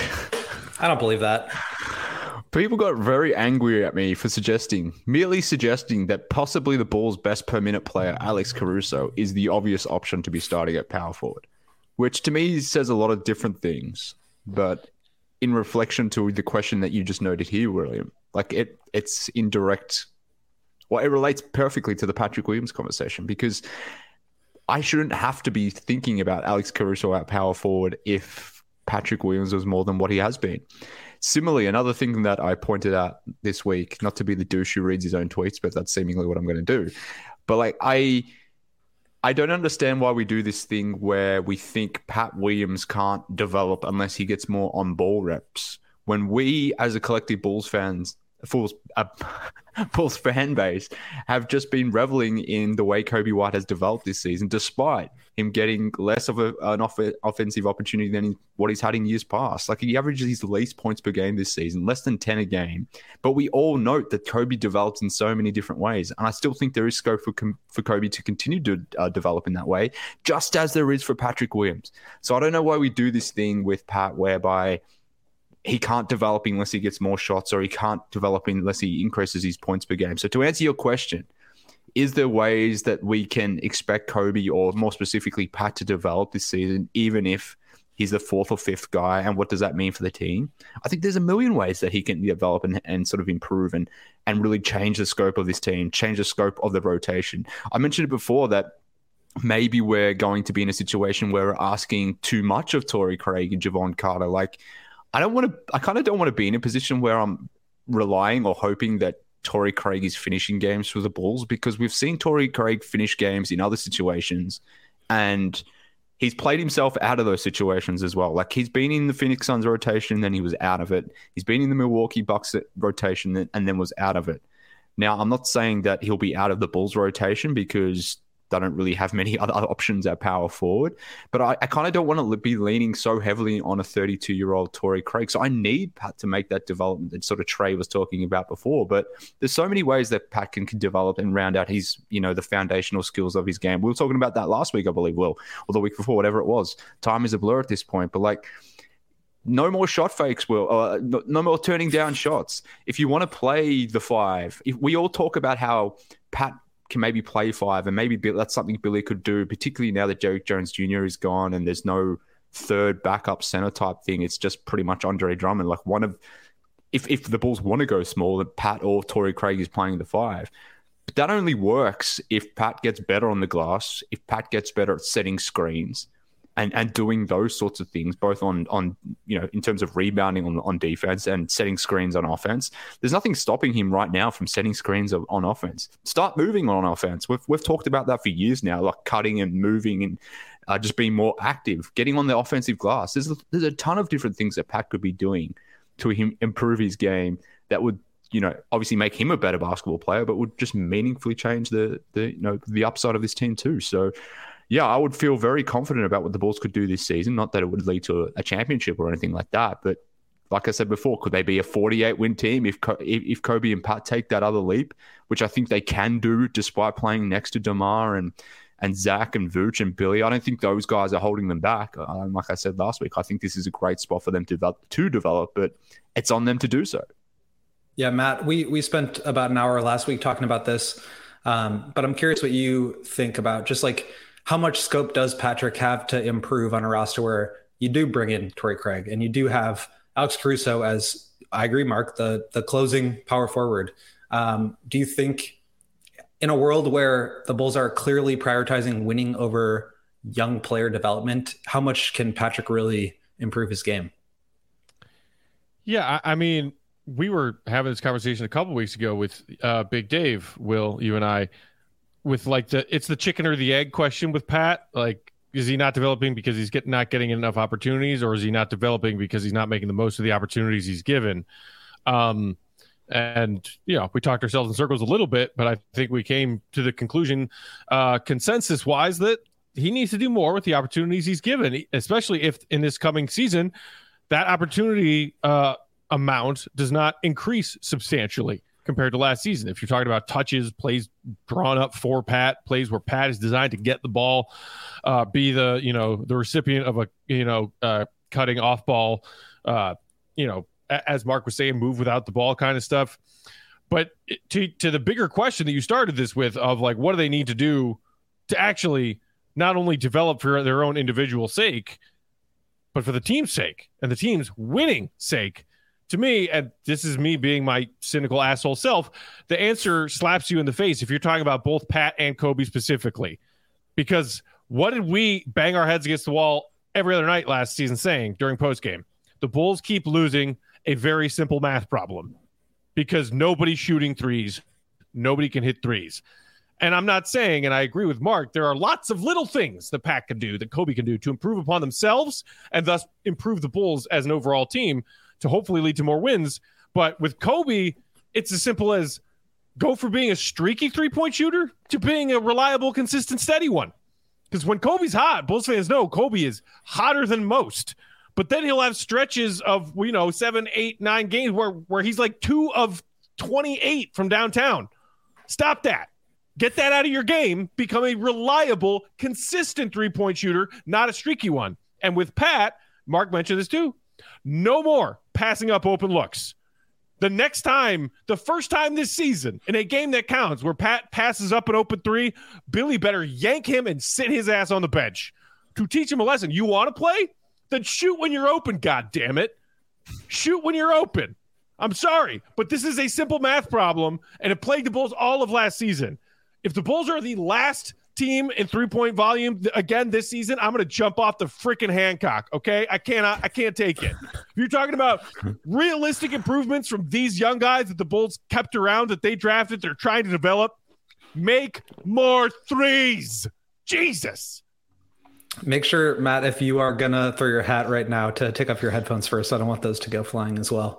I don't believe that. People got very angry at me for suggesting, merely suggesting that possibly the Bulls' best per minute player, Alex Caruso, is the obvious option to be starting at power forward, which to me says a lot of different things. But in reflection to the question that you just noted here, William, like it, it's indirect. Well, it relates perfectly to the Patrick Williams conversation, because I shouldn't have to be thinking about Alex Caruso at power forward if Patrick Williams was more than what he has been. Similarly, another thing that I pointed out this week, not to be the douche who reads his own tweets, but that's seemingly what I'm going to do. But like, I, I don't understand why we do this thing where we think Pat Williams can't develop unless he gets more on ball reps. When we, as a collective Bulls fans, Bulls, uh, Bulls fan base, have just been reveling in the way Kobe White has developed this season, despite him getting less of a, an off- offensive opportunity than he, what he's had in years past. Like, he averages his least points per game this season, less than ten a game. But we all note that Kobe develops in so many different ways. And I still think there is scope for, for Kobe to continue to uh, develop in that way, just as there is for Patrick Williams. So I don't know why we do this thing with Pat whereby he can't develop unless he gets more shots, or he can't develop unless he increases his points per game. So to answer your question, is there ways that we can expect Kobe, or more specifically Pat, to develop this season, even if he's the fourth or fifth guy? And what does that mean for the team? I think there's a million ways that he can develop and, and sort of improve and, and really change the scope of this team, change the scope of the rotation. I mentioned it before that maybe we're going to be in a situation where we're asking too much of Torrey Craig and Javon Carter. Like, I don't want to, I kind of don't want to be in a position where I'm relying or hoping that Torrey Craig is finishing games for the Bulls, because we've seen Torrey Craig finish games in other situations and he's played himself out of those situations as well. Like, he's been in the Phoenix Suns rotation, then he was out of it. He's been in the Milwaukee Bucks rotation and then was out of it. Now, I'm not saying that he'll be out of the Bulls rotation, because they don't really have many other options at power forward. But I, I kind of don't want to be leaning so heavily on a thirty-two-year-old Torrey Craig. So I need Pat to make that development that sort of Trey was talking about before. But there's so many ways that Pat can, can develop and round out his, you know, the foundational skills of his game. We were talking about that last week, I believe, Will, or the week before, whatever it was. Time is a blur at this point. But like, no more shot fakes, Will. Uh, no, no more turning down shots. If you want to play the five, if we all talk about how Pat can maybe play five, and maybe that's something Billy could do, particularly now that Derrick Jones Junior is gone and there's no third backup center type thing. It's just pretty much Andre Drummond. Like one of, if if the Bulls want to go small, then Pat or Torrey Craig is playing the five. But that only works if Pat gets better on the glass, if Pat gets better at setting screens and, and doing those sorts of things, both on, on you know, in terms of rebounding on, on defense and setting screens on offense. There's nothing stopping him right now from setting screens on, on offense. Start moving on offense. We've, we've talked about that for years now, like cutting and moving and uh, just being more active, getting on the offensive glass. There's a, there's a ton of different things that Pat could be doing to him improve his game that would, you know, obviously make him a better basketball player, but would just meaningfully change the, the you know, the upside of this team too. So, yeah, I would feel very confident about what the Bulls could do this season. Not that it would lead to a, a championship or anything like that, but like I said before, could they be a forty-eight win team if if, if Kobe and Pat take that other leap, which I think they can do despite playing next to DeMar and and Zach and Vooch and Billy. I don't think those guys are holding them back. Um, like I said last week, I think this is a great spot for them to develop, to develop, but it's on them to do so. Yeah, Matt, we we spent about an hour last week talking about this, um, but I'm curious what you think about just like how much scope does Patrick have to improve on a roster where you do bring in Torrey Craig and you do have Alex Caruso as, I agree, Mark, the the closing power forward. Um, do you think in a world where the Bulls are clearly prioritizing winning over young player development, how much can Patrick really improve his game? Yeah, I, I mean, we were having this conversation a couple weeks ago with uh, Big Dave, Will, you and I, with like the it's the chicken or the egg question with Pat. Like, is he not developing because he's get, not getting enough opportunities, or is he not developing because he's not making the most of the opportunities he's given? Um, and, you know, we talked ourselves in circles a little bit, but I think we came to the conclusion uh, consensus-wise that he needs to do more with the opportunities he's given, especially if in this coming season that opportunity uh, amount does not increase substantially compared to last season. If you're talking about touches, plays drawn up for Pat, plays where Pat is designed to get the ball, uh, be the, you know, the recipient of a, you know, uh, cutting off ball, uh, you know, as Mark was saying, move without the ball kind of stuff. But to, to the bigger question that you started this with of like, what do they need to do to actually not only develop for their own individual sake, but for the team's sake and the team's winning sake? To me, and this is me being my cynical asshole self, the answer slaps you in the face if you're talking about both Pat and Kobe specifically. Because what did we bang our heads against the wall every other night last season saying during postgame? The Bulls keep losing a very simple math problem because nobody's shooting threes. Nobody can hit threes. And I'm not saying, and I agree with Mark, there are lots of little things that Pat can do, that Kobe can do to improve upon themselves and thus improve the Bulls as an overall team to hopefully lead to more wins. But with Kobe, it's as simple as go for being a streaky three-point shooter to being a reliable, consistent, steady one. Because when Kobe's hot, Bulls fans know Kobe is hotter than most. But then he'll have stretches of, you know, seven, eight, nine games where, where he's like two of twenty-eight from downtown. Stop that. Get that out of your game. Become a reliable, consistent three-point shooter, not a streaky one. And with Pat, Mark mentioned this too, no more passing up open looks. The next time, the first time this season, in a game that counts, where Pat passes up an open three, Billy better yank him and sit his ass on the bench to teach him a lesson. You want to play? Then shoot when you're open, goddammit. Shoot when you're open. I'm sorry, but this is a simple math problem, and it plagued the Bulls all of last season. If the Bulls are the last team in three-point volume again this season, I'm going to jump off the freaking Hancock, okay? I cannot, I can't take it. If you're talking about realistic improvements from these young guys that the Bulls kept around, that they drafted, they're trying to develop, make more threes. Jesus. Make sure, Matt, if you are going to throw your hat right now, to take off your headphones first. I don't want those to go flying as well.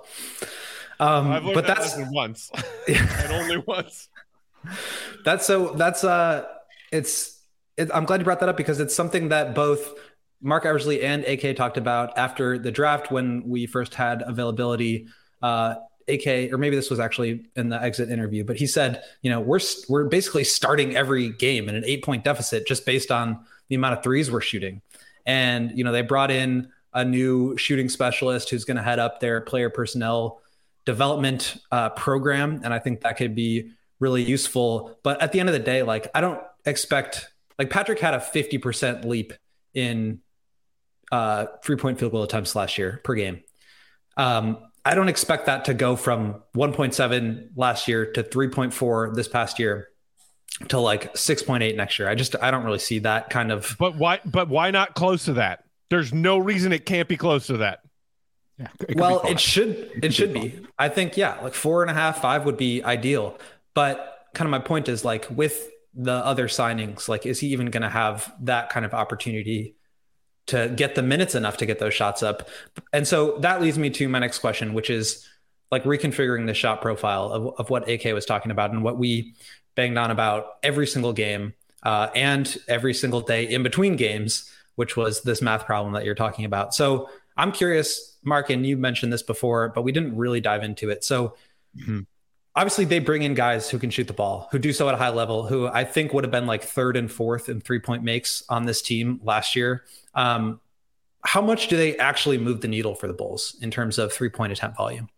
Um, I've learned but that that's lesson once and only once. That's so that's uh it's it, I'm glad you brought that up because it's something that both Mark Eversley and A K talked about after the draft when we first had availability. Uh, A K, or maybe this was actually in the exit interview, but he said, you know, we're we're basically starting every game in an eight point deficit just based on the amount of threes we're shooting. And, you know, they brought in a new shooting specialist who's going to head up their player personnel development uh, program. And I think that could be really useful. But at the end of the day, like, I don't expect, like, Patrick had a fifty percent leap in uh, three point field goal attempts last year per game. Um, I don't expect that to go from one point seven last year to three point four this past year to like six point eight next year. I just, I don't really see that kind of. But why, but why not close to that? There's no reason it can't be close to that. Yeah, it well, it should, it, it should be, be. I think, yeah, like four and a half, five would be ideal. But kind of my point is like with the other signings, like, is he even going to have that kind of opportunity to get the minutes enough to get those shots up? And so that leads me to my next question, which is like reconfiguring the shot profile of, of what A K was talking about and what we banged on about every single game uh, and every single day in between games, which was this math problem that you're talking about. So I'm curious, Mark, and you mentioned this before, but we didn't really dive into it. So mm-hmm. obviously they bring in guys who can shoot the ball, who do so at a high level, who I think would have been like third and fourth in three point makes on this team last year. Um, how much do they actually move the needle for the Bulls in terms of three point attempt volume?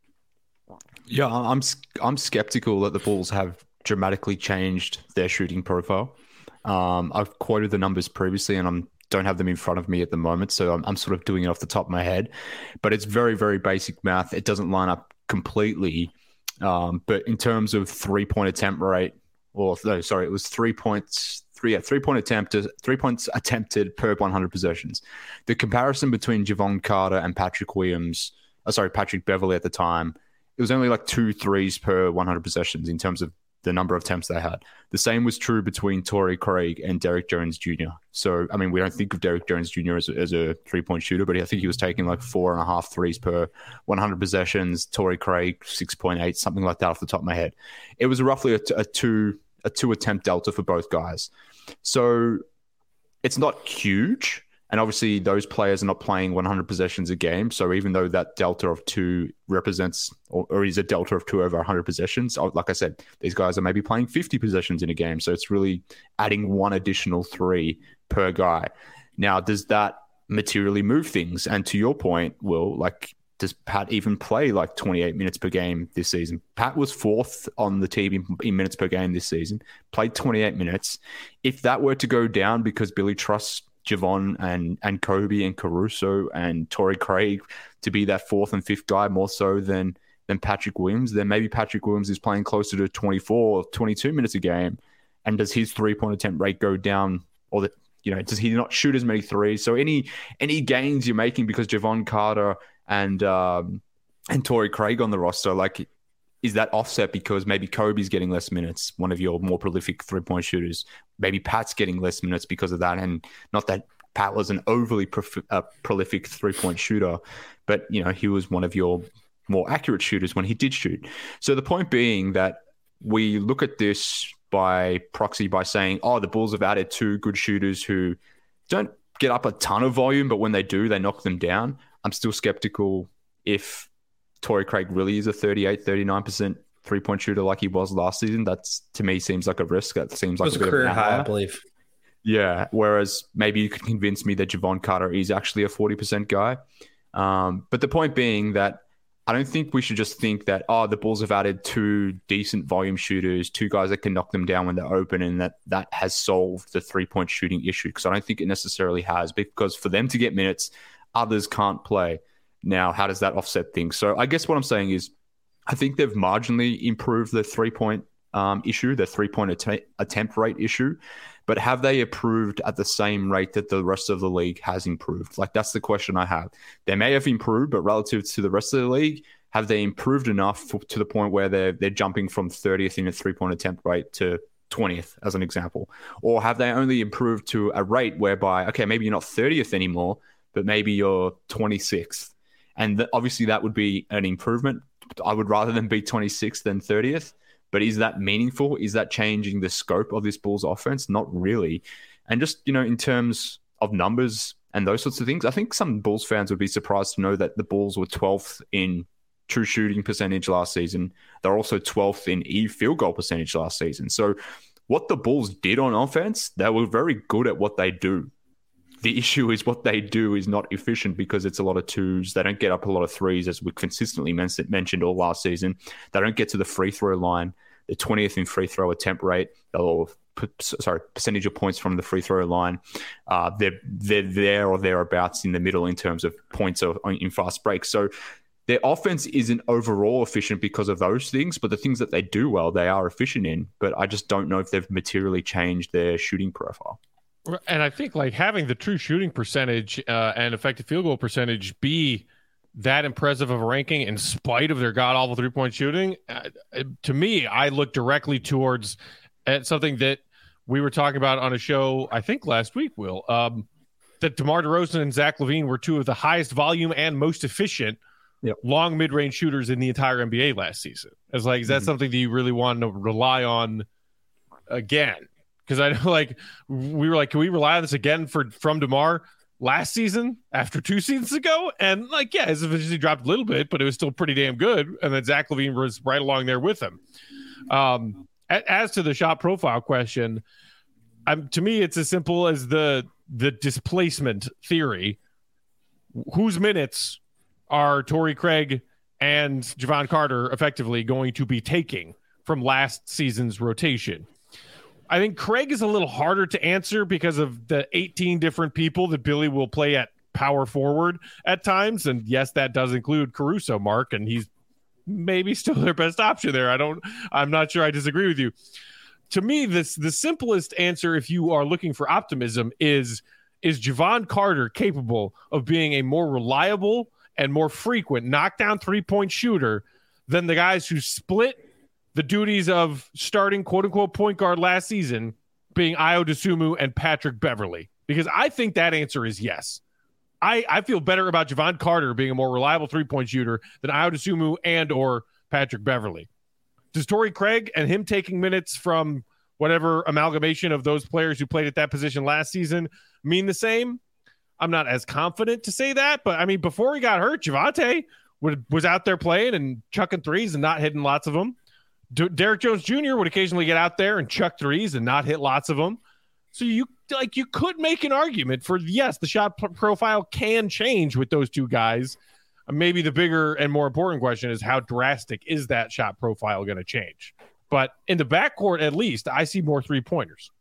Yeah, I'm I'm skeptical that the Bulls have dramatically changed their shooting profile. Um, I've quoted the numbers previously, and I don't have them in front of me at the moment, so I'm, I'm sort of doing it off the top of my head. But it's very, very basic math. It doesn't line up completely. Um, but in terms of three point attempt rate, or no, sorry, it was three points. Three, yeah, three point attempt, three points attempted per one hundred possessions. The comparison between Jevon Carter and Patrick Williams, oh, sorry, Patrick Beverley at the time, it was only like two threes per one hundred possessions in terms of the number of attempts they had. The same was true between Torrey Craig and Derrick Jones Junior So, I mean, we don't think of Derrick Jones Junior as a, as a three-point shooter, but I think he was taking like four and a half threes per one hundred possessions. Torrey Craig, six point eight, something like that off the top of my head. It was roughly a, a two a two attempt delta for both guys. So it's not huge. And obviously those players are not playing one hundred possessions a game. So even though that delta of two represents or, or is a delta of two over one hundred possessions, like I said, these guys are maybe playing fifty possessions in a game. So it's really adding one additional three per guy. Now, does that materially move things? And to your point, Will, like, does Pat even play like twenty-eight minutes per game this season? Pat was fourth on the team in, in minutes per game this season, played twenty-eight minutes. If that were to go down because Billy trusts Jevon and, and Kobe and Caruso and Torrey Craig to be that fourth and fifth guy more so than, than Patrick Williams, then maybe Patrick Williams is playing closer to twenty-four or twenty-two minutes a game. And does his three-point attempt rate go down, or that, you know, does he not shoot as many threes? So any any gains you're making because Jevon Carter and um, and Torrey Craig on the roster, like, is that offset because maybe Kobe's getting less minutes, one of your more prolific three-point shooters? Maybe Pat's getting less minutes because of that. And not that Pat was an overly prof- uh, prolific three-point shooter, but, you know, he was one of your more accurate shooters when he did shoot. So the point being that we look at this by proxy by saying, oh, the Bulls have added two good shooters who don't get up a ton of volume, but when they do, they knock them down. I'm still skeptical if Torrey Craig really is a thirty-eight, thirty-nine percent three-point shooter like he was last season. That's, to me, seems like a risk. That seems like it was a, a career high, high, I believe. Yeah, whereas maybe you could convince me that Jevon Carter is actually a forty percent guy. Um, but the point being that I don't think we should just think that, oh, the Bulls have added two decent volume shooters, two guys that can knock them down when they're open, and that that has solved the three-point shooting issue, because I don't think it necessarily has, because for them to get minutes, others can't play. Now, how does that offset things? So I guess what I'm saying is I think they've marginally improved the three-point um, issue, the three-point att- attempt rate issue, but have they improved at the same rate that the rest of the league has improved? Like, that's the question I have. They may have improved, but relative to the rest of the league, have they improved enough for, to the point where they're, they're jumping from thirtieth in a three-point attempt rate to twentieth, as an example? Or have they only improved to a rate whereby, okay, maybe you're not thirtieth anymore, but maybe you're twenty-sixth? And th- obviously that would be an improvement. I would rather them be twenty-sixth than thirtieth. But is that meaningful? Is that changing the scope of this Bulls offense? Not really. And just, you know, in terms of numbers and those sorts of things, I think some Bulls fans would be surprised to know that the Bulls were twelfth in true shooting percentage last season. They're also twelfth in E field goal percentage last season. So what the Bulls did on offense, they were very good at what they do. The issue is what they do is not efficient because it's a lot of twos. They don't get up a lot of threes, as we consistently mentioned all last season. They don't get to the free throw line. They're twentieth in free throw attempt rate, or sorry, percentage of points from the free throw line. Uh, they're they're there or thereabouts in the middle in terms of points of, in fast breaks. So their offense isn't overall efficient because of those things, but the things that they do well, they are efficient in. But I just don't know if they've materially changed their shooting profile. And I think like having the true shooting percentage uh, and effective field goal percentage be that impressive of a ranking in spite of their god awful three point shooting, uh, to me, I look directly towards uh, something that we were talking about on a show, I think last week, Will, um, that DeMar DeRozan and Zach LaVine were two of the highest volume and most efficient yep. long mid range shooters in the entire N B A last season. It's like, is that mm-hmm. something that you really want to rely on again? Because I know, like, we were like, can we rely on this again for from DeMar last season after two seasons ago? And, like, yeah, his efficiency dropped a little bit, but it was still pretty damn good. And then Zach LaVine was right along there with him. Um, as to the shot profile question, um, to me, it's as simple as the the displacement theory. Whose minutes are Torrey Craig and Jevon Carter effectively going to be taking from last season's rotation? I think Craig is a little harder to answer because of the eighteen different people that Billy will play at power forward at times. And yes, that does include Caruso, Mark, and he's maybe still their best option there. I don't, I'm not sure I disagree with you. To me, this, the simplest answer, if you are looking for optimism, is, is Jevon Carter capable of being a more reliable and more frequent knockdown three-point shooter than the guys who split the duties of starting quote-unquote point guard last season being Ayo Dosunmu and Patrick Beverley? Because I think that answer is yes. I, I feel better about Jevon Carter being a more reliable three-point shooter than Ayo Dosunmu and or Patrick Beverley. Does Torrey Craig and him taking minutes from whatever amalgamation of those players who played at that position last season mean the same? I'm not as confident to say that, but I mean, before he got hurt, Javonte would, was out there playing and chucking threes and not hitting lots of them. D- Derrick Jones Junior would occasionally get out there and chuck threes and not hit lots of them. So you like you could make an argument for, yes, the shot p- profile can change with those two guys. Uh, maybe the bigger and more important question is how drastic is that shot profile going to change? But in the backcourt, at least, I see more three-pointers.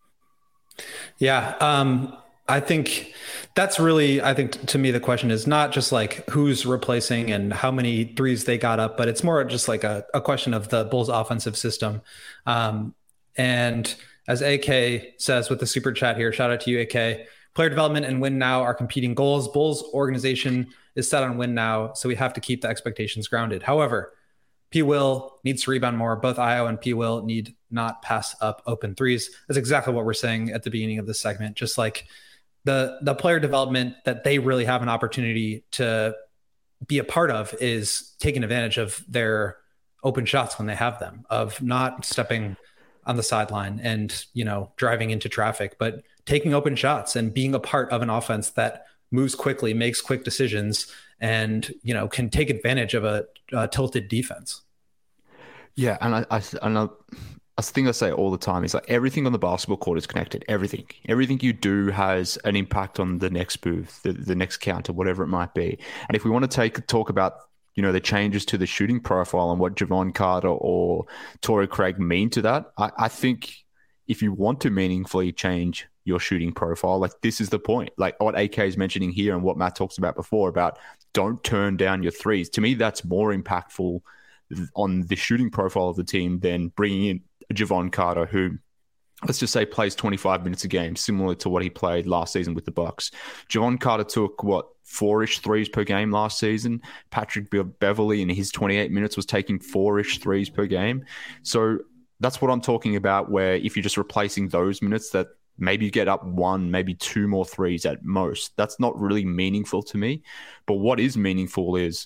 Yeah, um, I think that's really, I think to me, the question is not just like who's replacing and how many threes they got up, but it's more just like a, a question of the Bulls offensive system. Um, and as A K says with the super chat here, shout out to you, A K, player development and win now are competing goals. Bulls organization is set on win now, so we have to keep the expectations grounded. However, P. Will needs to rebound more. Both Ayo and P. Will need not pass up open threes. That's exactly what we're saying at the beginning of this segment. Just like the the player development that they really have an opportunity to be a part of is taking advantage of their open shots when they have them, of not stepping on the sideline and, you know, driving into traffic, but taking open shots and being a part of an offense that moves quickly, makes quick decisions, and, you know, can take advantage of a, a tilted defense. Yeah, and I, I, and I, a thing I say all the time is like everything on the basketball court is connected. Everything, everything you do has an impact on the next move, the, the next counter, whatever it might be. And if we want to take talk about, you know, the changes to the shooting profile and what Jevon Carter or Torrey Craig mean to that, I, I think if you want to meaningfully change your shooting profile, like this is the point. Like what A K is mentioning here and what Matt talks about before about don't turn down your threes. To me, that's more impactful on the shooting profile of the team than bringing in Jevon Carter, who, let's just say, plays twenty-five minutes a game, similar to what he played last season with the Bucks. Jevon Carter took, what, four-ish threes per game last season. Patrick Be- Beverley in his twenty-eight minutes was taking four-ish threes per game. So that's what I'm talking about, where if you're just replacing those minutes, that maybe you get up one, maybe two more threes at most. That's not really meaningful to me. But what is meaningful is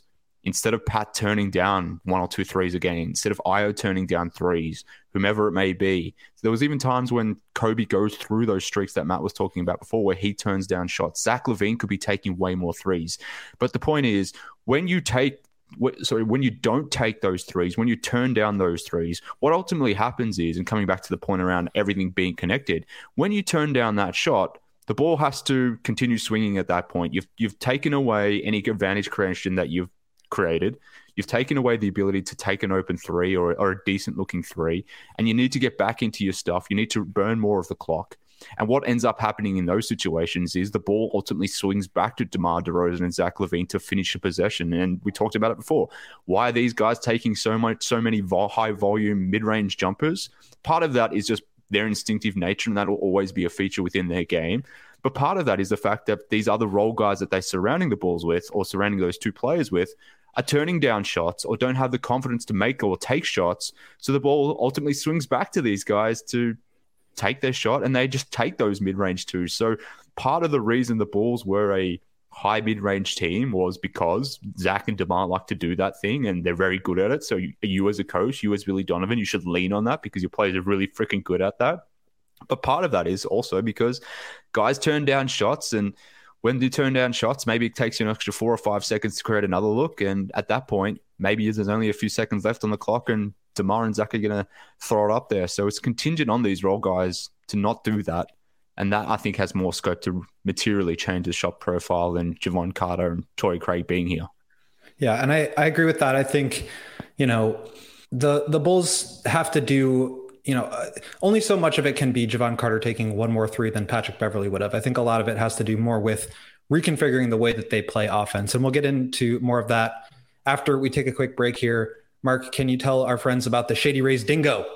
instead of Pat turning down one or two threes a game, instead of Ayo turning down threes, whomever it may be. So there was even times when Kobe goes through those streaks that Matt was talking about before where he turns down shots. Zach LaVine could be taking way more threes. But the point is, when you take sorry, when you don't take those threes, when you turn down those threes, what ultimately happens is, and coming back to the point around everything being connected, when you turn down that shot, the ball has to continue swinging at that point. You've you've taken away any advantage creation that you've created. You've taken away the ability to take an open three or, or a decent looking three, and you need to get back into your stuff. You need to burn more of the clock. And what ends up happening in those situations is the ball ultimately swings back to DeMar DeRozan and Zach LaVine to finish a possession. And we talked about it before. Why are these guys taking so much, so many vol- high volume mid-range jumpers? Part of that is just their instinctive nature, and that will always be a feature within their game. But part of that is the fact that these other role guys that they're surrounding the balls with, or surrounding those two players with, are turning down shots or don't have the confidence to make or take shots. So the ball ultimately swings back to these guys to take their shot, and they just take those mid-range twos. So part of the reason the Bulls were a high mid-range team was because Zach and DeMar like to do that thing, and they're very good at it. So you, you as a coach, you as Billy Donovan, you should lean on that because your players are really freaking good at that. But part of that is also because guys turn down shots, and when you turn down shots, maybe it takes you an extra four or five seconds to create another look. And at that point, maybe there's only a few seconds left on the clock, and DeMar and Zach are going to throw it up there. So it's contingent on these role guys to not do that. And that, I think, has more scope to materially change the shot profile than Javon Carter and Torrey Craig being here. Yeah, and I, I agree with that. I think, you know, the the Bulls have to do, you know, uh, only so much of it can be Javon Carter taking one more three than Patrick Beverley would have. I think a lot of it has to do more with reconfiguring the way that they play offense. And we'll get into more of that after we take a quick break here. Mark, can you tell our friends about the Shady Rays Dingo?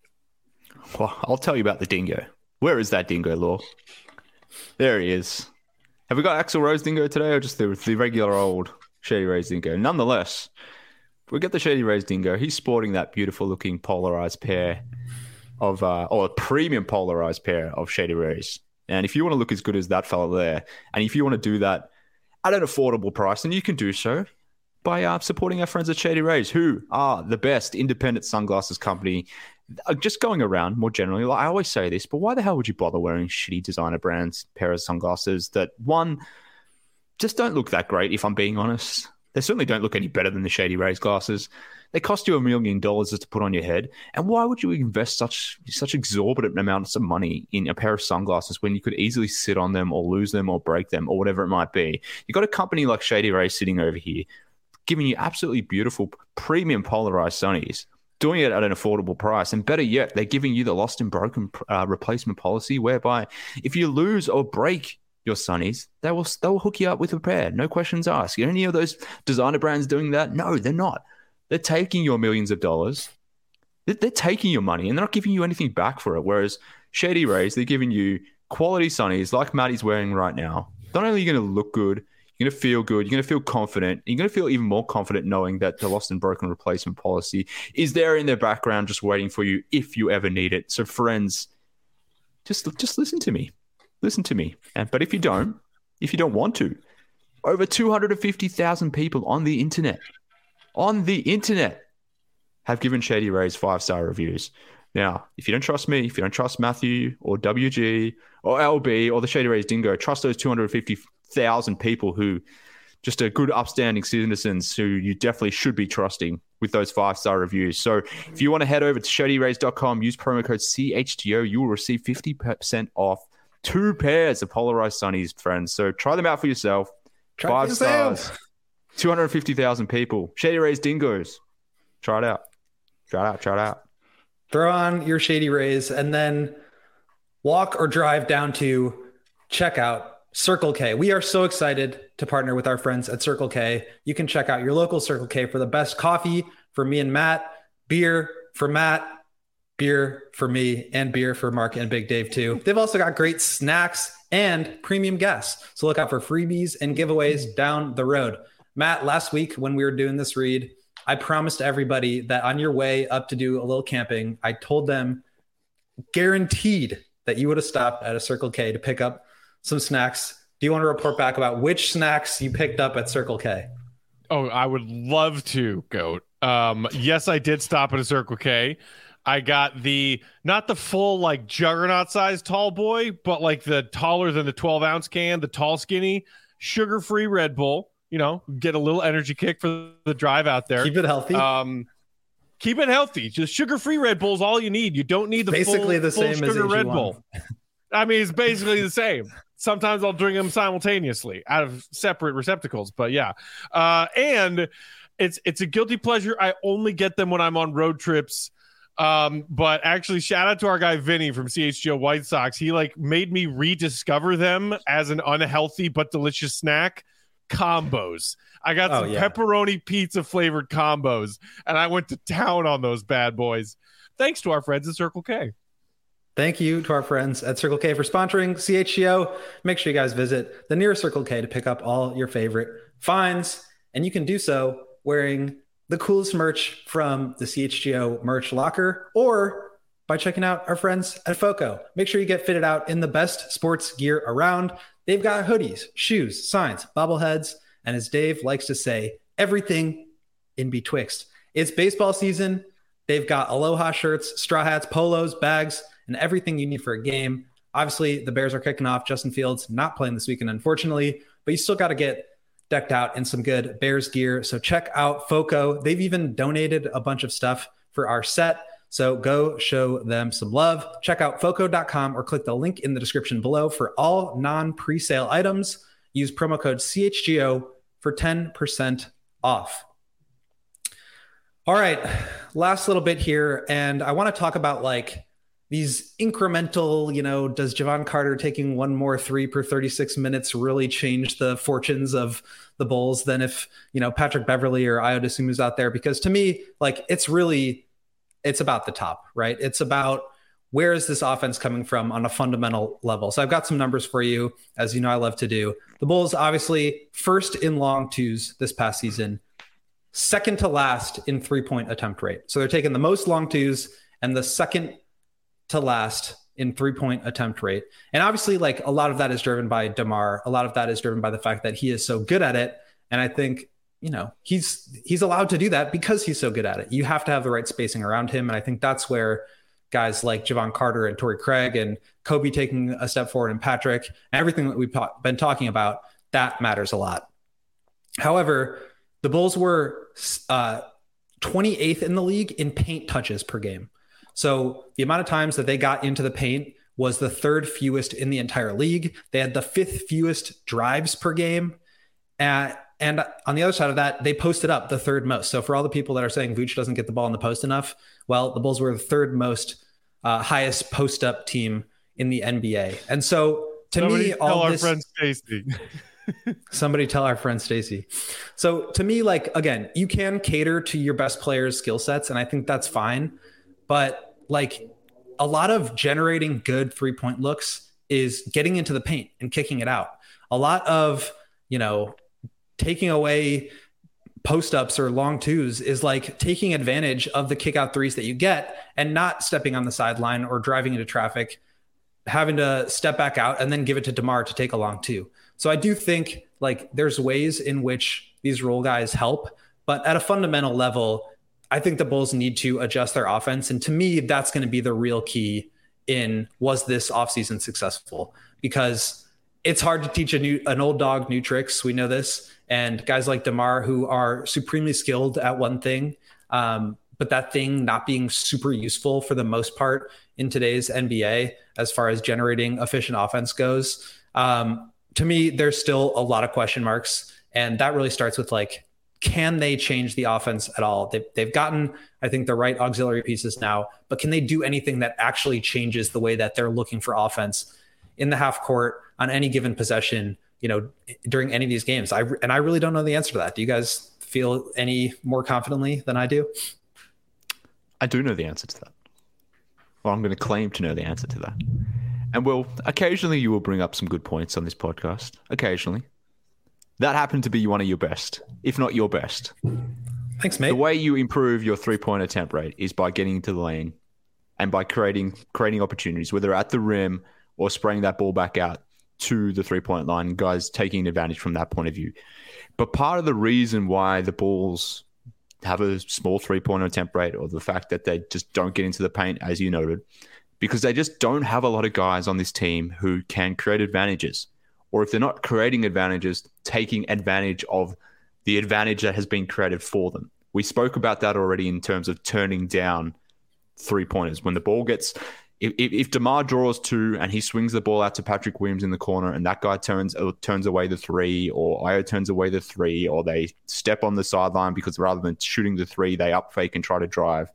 Well, I'll tell you about the Dingo. Where is that Dingo, Law? There he is. Have we got Axl Rose Dingo today, or just the, the regular old Shady Rays Dingo? Nonetheless, we get the Shady Rays Dingo. He's sporting that beautiful-looking polarized pair of, uh, or a premium polarized pair of Shady Rays. And if you want to look as good as that fella there, and if you want to do that at an affordable price, then you can do so by uh, supporting our friends at Shady Rays, who are the best independent sunglasses company. Just going around more generally, like I always say this, but why the hell would you bother wearing shitty designer brands pair of sunglasses that, one, just don't look that great, if I'm being honest? They certainly don't look any better than the Shady Rays glasses. They cost you a million dollars just to put on your head. And why would you invest such such exorbitant amounts of money in a pair of sunglasses when you could easily sit on them or lose them or break them or whatever it might be? You've got a company like Shady Rays sitting over here, giving you absolutely beautiful premium polarized sunnies, doing it at an affordable price. And better yet, they're giving you the lost and broken uh, replacement policy, whereby if you lose or break your sunnies, they will, they will hook you up with a pair. No questions asked. Are any of those designer brands doing that? No, they're not. They're taking your millions of dollars. They're, they're taking your money, and they're not giving you anything back for it. Whereas Shady Rays, they're giving you quality sunnies like Matty's wearing right now. Not only are you going to look good, you're going to feel good. You're going to feel confident. You're going to feel even more confident knowing that the lost and broken replacement policy is there in their background just waiting for you if you ever need it. So friends, just, just listen to me. Listen to me. And, but if you don't, if you don't want to, over two hundred fifty thousand people on the internet, on the internet, have given Shady Rays five-star reviews. Now, if you don't trust me, if you don't trust Matthew or W G or L B or the Shady Rays Dingo, trust those two hundred fifty thousand people who just are good, upstanding citizens who you definitely should be trusting with those five-star reviews. So if you want to head over to shady rays dot com, use promo code C H T O, you will receive fifty percent off two pairs of polarized sunnies, friends. So try them out for yourself. Try Five yourself. stars. two hundred fifty thousand people. Shady Rays Dingoes. Try it out. Try it out. Try it out. Throw on your Shady Rays and then walk or drive down to check out Circle K. We are so excited to partner with our friends at Circle K. You can check out your local Circle K for the best coffee for me and Matt, beer for Matt, beer for me, and beer for Mark and Big Dave too. They've also got great snacks and premium gas. So look out for freebies and giveaways down the road. Matt, last week when we were doing this read, I promised everybody that on your way up to do a little camping, I told them guaranteed that you would have stopped at a Circle K to pick up some snacks. Do you want to report back about which snacks you picked up at Circle K? Oh, I would love to, Goat. Um, yes, I did stop at a Circle K. I got the, not the full like juggernaut size tall boy, but like the taller than the twelve ounce can, the tall skinny, sugar-free Red Bull. You know, get a little energy kick for the drive out there. Keep it healthy. Um, keep it healthy. Just sugar-free Red Bull is all you need. You don't need the basically full, the full same sugar as Red A G one. Bull. I mean, it's basically the same. Sometimes I'll drink them simultaneously out of separate receptacles, but yeah. Uh, and it's it's a guilty pleasure. I only get them when I'm on road trips. Um, but actually, shout out to our guy Vinny from C H G O White Sox. He like made me rediscover them as an unhealthy but delicious snack. Combos. I got Oh, some yeah. pepperoni pizza flavored combos, and I went to town on those bad boys. Thanks to our friends at Circle K. Thank you to our friends at Circle K for sponsoring C H G O. Make sure you guys visit the nearest Circle K to pick up all your favorite finds. And you can do so wearing the coolest merch from the C H G O merch locker or by checking out our friends at FOCO. Make sure you get fitted out in the best sports gear around. They've got hoodies, shoes, signs, bobbleheads, and as Dave likes to say, everything in betwixt. It's baseball season. They've got Aloha shirts, straw hats, polos, bags, and everything you need for a game. Obviously, the Bears are kicking off. Justin Fields not playing this weekend, unfortunately, but you still got to get decked out in some good Bears gear. So check out FOCO. They've even donated a bunch of stuff for our set. So go show them some love. Check out foco dot com or click the link in the description below for all non-presale items. Use promo code C H G O for ten percent off. All right, last little bit here. And I want to talk about like these incremental, you know, does Javon Carter taking one more three per thirty-six minutes really change the fortunes of the Bulls than if, you know, Patrick Beverly or Ayo Dosunmu's out there? Because to me, like, it's really, it's about the top, right? It's about where is this offense coming from on a fundamental level. So I've got some numbers for you, as you know I love to do. The Bulls, obviously, first in long twos this past season, second to last in three-point attempt rate. So they're taking the most long twos and the second to last in three-point attempt rate. And obviously, like, a lot of that is driven by DeMar. A lot of that is driven by the fact that he is so good at it. And I think, you know, he's he's allowed to do that because he's so good at it. You have to have the right spacing around him. And I think that's where guys like Javon Carter and Torrey Craig and Kobe taking a step forward and Patrick, and everything that we've been talking about, that matters a lot. However, the Bulls were uh, twenty-eighth in the league in paint touches per game. So the amount of times that they got into the paint was the third fewest in the entire league. They had the fifth fewest drives per game. Uh, and on the other side of that, they posted up the third most. So for all the people that are saying Vooch doesn't get the ball in the post enough, well, the Bulls were the third most uh, highest post up team in the N B A. And so to Somebody me, all tell this, our friend Stacey. somebody tell our friend Stacey. So to me, like, again, you can cater to your best players' skill sets, and I think that's fine. But like, a lot of generating good three-point looks is getting into the paint and kicking it out. A lot of, you know, taking away post-ups or long twos is like taking advantage of the kick-out threes that you get and not stepping on the sideline or driving into traffic, having to step back out and then give it to DeMar to take a long two. So I do think like there's ways in which these role guys help, but at a fundamental level, I think the Bulls need to adjust their offense. And to me, that's going to be the real key in, was this offseason successful? Because it's hard to teach a new, an old dog new tricks. We know this. And guys like DeMar, who are supremely skilled at one thing, um, but that thing not being super useful for the most part in today's N B A, as far as generating efficient offense goes. Um, to me, there's still a lot of question marks. And that really starts with like, can they change the offense at all? They've, they've gotten, I think, the right auxiliary pieces now, but can they do anything that actually changes the way that they're looking for offense in the half court on any given possession, you know, during any of these games? I, and I really don't know the answer to that. Do you guys feel any more confidently than I do? I do know the answer to that. Well, I'm going to claim to know the answer to that. And well, occasionally you will bring up some good points on this podcast. Occasionally. That happened to be one of your best, if not your best. Thanks, mate. The way you improve your three-point attempt rate is by getting into the lane and by creating creating opportunities, whether at the rim or spraying that ball back out. to the three-point line, guys taking advantage from that point of view. But part of the reason why the Bulls have a small three-point attempt rate, or the fact that they just don't get into the paint, as you noted, because they just don't have a lot of guys on this team who can create advantages. Or if they're not creating advantages, taking advantage of the advantage that has been created for them. We spoke about that already in terms of turning down three-pointers. When the ball gets... If, if DeMar draws two and he swings the ball out to Patrick Williams in the corner and that guy turns uh, turns away the three, or Ayo turns away the three, or they step on the sideline because rather than shooting the three, they up fake and try to drive,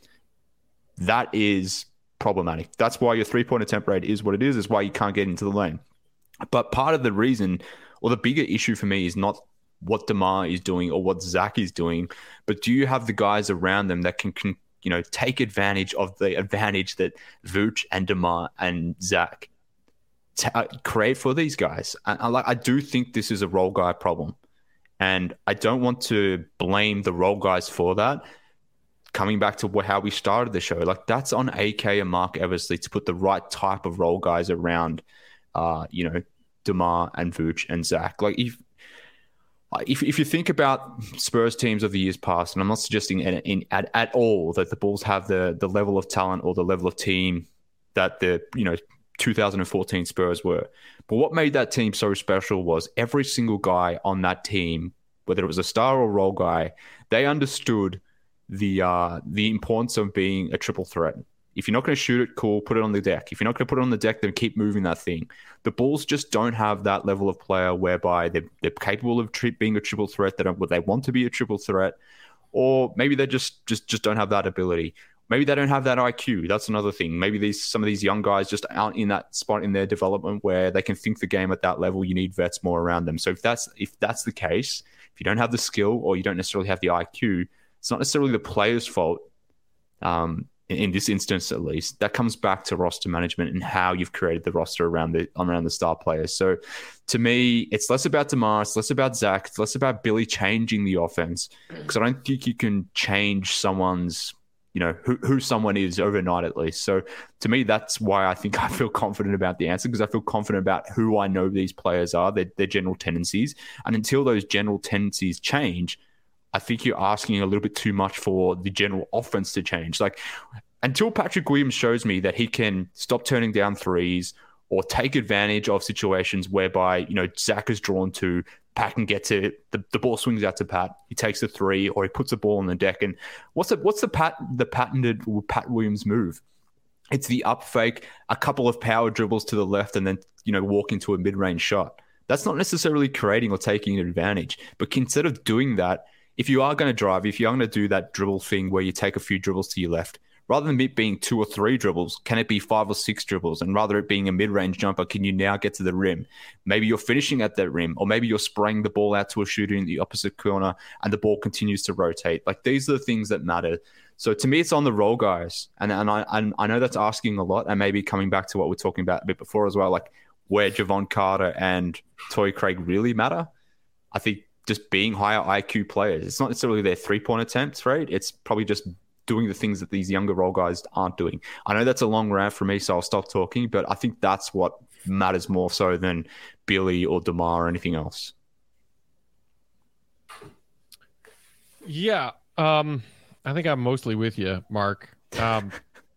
that is problematic. That's why your three-point attempt rate is what it is, is why you can't get into the lane. But part of the reason, or the bigger issue for me, is not what DeMar is doing or what Zach is doing, but do you have the guys around them that can, can you know, take advantage of the advantage that Vooch and DeMar and Zach t- uh, create for these guys? And I, like, I do think this is a role guy problem, and I don't want to blame the role guys for that. Coming back to what, how we started the show, like that's on A K and Mark Eversley to put the right type of role guys around, uh, you know, DeMar and Vooch and Zach. Like if If if you think about Spurs teams of the years past, and I'm not suggesting in, in, at, at all that the Bulls have the the level of talent or the level of team that the you know two thousand fourteen Spurs were, but what made that team so special was every single guy on that team, whether it was a star or role guy, they understood the uh, the importance of being a triple threat. If you're not going to shoot it, cool, put it on the deck. If you're not going to put it on the deck, then keep moving that thing. The Bulls just don't have that level of player whereby they're, they're capable of tri- being a triple threat. They don't, they want to be a triple threat, or maybe they just, just just don't have that ability. Maybe they don't have that I Q. That's another thing. Maybe these some of these young guys just aren't in that spot in their development where they can think the game at that level. You need vets more around them. So if that's if that's the case, if you don't have the skill or you don't necessarily have the I Q, it's not necessarily the player's fault. Um, in this instance, at least, that comes back to roster management and how you've created the roster around the around the star players. So to me, it's less about DeMar, it's less about Zach, it's less about Billy changing the offense, because I don't think you can change someone's, you know, who, who someone is overnight, at least. So to me, that's why I think I feel confident about the answer, because I feel confident about who I know these players are, their, their general tendencies. And until those general tendencies change, I think you're asking a little bit too much for the general offense to change. Like, until Patrick Williams shows me that he can stop turning down threes or take advantage of situations whereby, you know, Zach is drawn to, Pat can get to the, the ball swings out to Pat, he takes the three, or he puts the ball on the deck. And what's the what's the pat the patented Pat Williams move? It's the up fake, a couple of power dribbles to the left, and then, you know, walk into a mid-range shot. That's not necessarily creating or taking an advantage. But instead of doing that, if you are going to drive, if you're going to do that dribble thing where you take a few dribbles to your left, rather than it being two or three dribbles, can it be five or six dribbles? And rather it being a mid-range jumper, can you now get to the rim? Maybe you're finishing at that rim, or maybe you're spraying the ball out to a shooter in the opposite corner and the ball continues to rotate. Like, these are the things that matter. So to me, it's on the role guys. And, and I and I know that's asking a lot, and maybe coming back to what we're talking about a bit before as well, like where Javon Carter and Torrey Craig really matter. I think just being higher I Q players. It's not necessarily their three-point attempts, right? It's probably just doing the things that these younger role guys aren't doing. I know that's a long rant for me, so I'll stop talking, but I think that's what matters more so than Billy or DeMar or anything else. Yeah, um, I think I'm mostly with you, Mark. Um,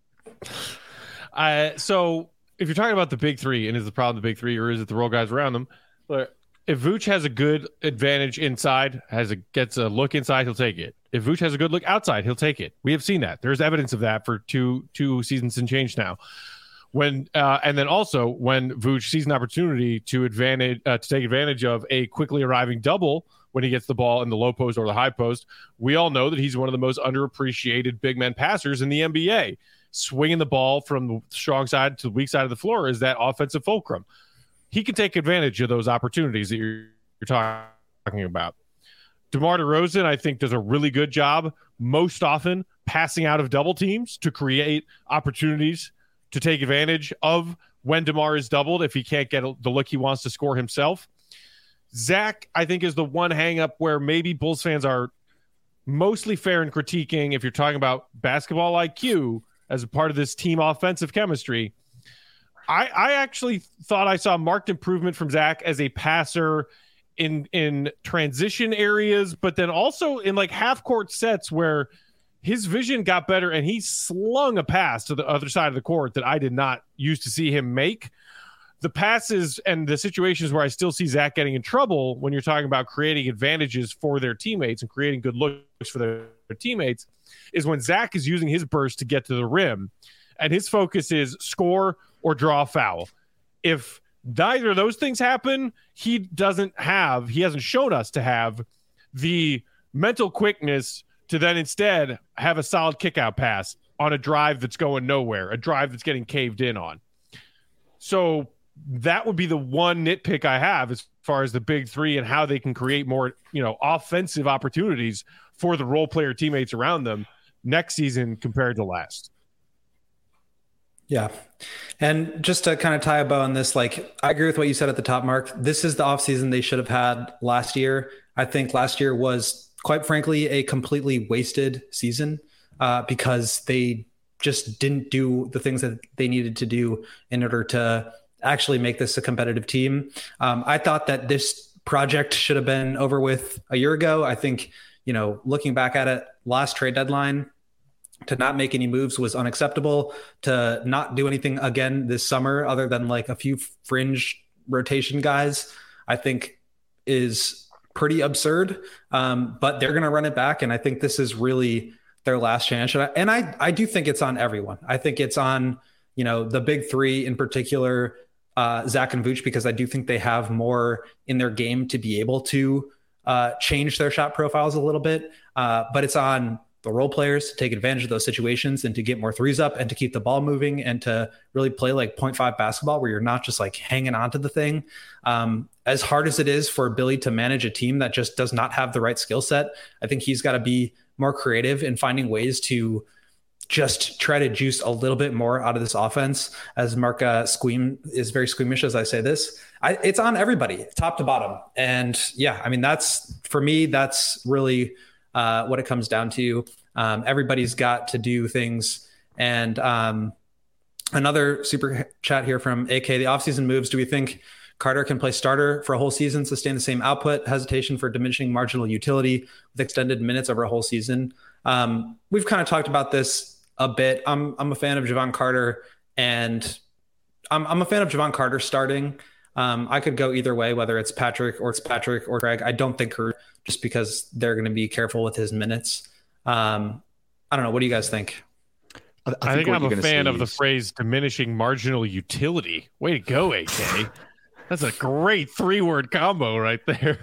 I, so if you're talking about the big three, and is the problem the big three, or is it the role guys around them? But if Vooch has a good advantage inside, has a gets a look inside, he'll take it. If Vooch has a good look outside, he'll take it. We have seen that. There's evidence of that for two two seasons and change now. When uh, and then also when Vooch sees an opportunity to advantage uh, to take advantage of a quickly arriving double when he gets the ball in the low post or the high post, we all know that he's one of the most underappreciated big men passers in the N B A. Swinging the ball from the strong side to the weak side of the floor is that offensive fulcrum. He can take advantage of those opportunities that you're, you're talking about. DeMar DeRozan, I think, does a really good job most often passing out of double teams to create opportunities to take advantage of when DeMar is doubled if he can't get the look he wants to score himself. Zach, I think, is the one hang-up where maybe Bulls fans are mostly fair in critiquing if you're talking about basketball I Q as a part of this team offensive chemistry. I, I actually thought I saw marked improvement from Zach as a passer in in transition areas, but then also in like half court sets where his vision got better and he slung a pass to the other side of the court that I did not used to see him make. The passes and the situations where I still see Zach getting in trouble when you're talking about creating advantages for their teammates and creating good looks for their, their teammates is when Zach is using his burst to get to the rim and his focus is score or draw a foul. If neither of those things happen, he doesn't have, he hasn't shown us to have the mental quickness to then instead have a solid kick out pass on a drive that's going nowhere, a drive that's getting caved in on. So that would be the one nitpick I have as far as the big three and how they can create more, you know, offensive opportunities for the role player teammates around them next season compared to last. Yeah. And just to kind of tie a bow on this, like, I agree with what you said at the top, Mark. This is the offseason they should have had last year. I think last year was, quite frankly, a completely wasted season uh, because they just didn't do the things that they needed to do in order to actually make this a competitive team. Um, I thought that this project should have been over with a year ago. I think, you know, looking back at it, last trade deadline, to not make any moves was unacceptable. To not do anything again this summer, other than like a few fringe rotation guys, I think is pretty absurd. Um, but they're going to run it back. And I think this is really their last chance. And I, and I, I do think it's on everyone. I think it's on, you know, the big three in particular, uh, Zach and Vooch, because I do think they have more in their game to be able to uh, change their shot profiles a little bit. Uh, but it's on the role players to take advantage of those situations and to get more threes up and to keep the ball moving and to really play like point five basketball where you're not just like hanging on to the thing. Um, as hard as it is for Billy to manage a team that just does not have the right skill set, I think he's got to be more creative in finding ways to just try to juice a little bit more out of this offense. As Mark uh, Squeam is very squeamish as I say this, I, it's on everybody top to bottom. And yeah, I mean, that's for me, that's really uh, what it comes down to. Um, everybody's got to do things. And um, another super chat here from A K, the offseason moves. Do we think Carter can play starter for a whole season, sustain the same output, hesitation for diminishing marginal utility with extended minutes over a whole season? Um, we've kind of talked about this a bit. I'm I'm a fan of Javon Carter, and I'm I'm a fan of Javon Carter starting. Um, I could go either way, whether it's Patrick or it's Patrick or Craig. I don't think her, just because they're going to be careful with his minutes. Um, I don't know. What do you guys think? I, I think, think I'm a fan of the phrase diminishing marginal utility. Way to go, A K. That's a great three-word combo right there.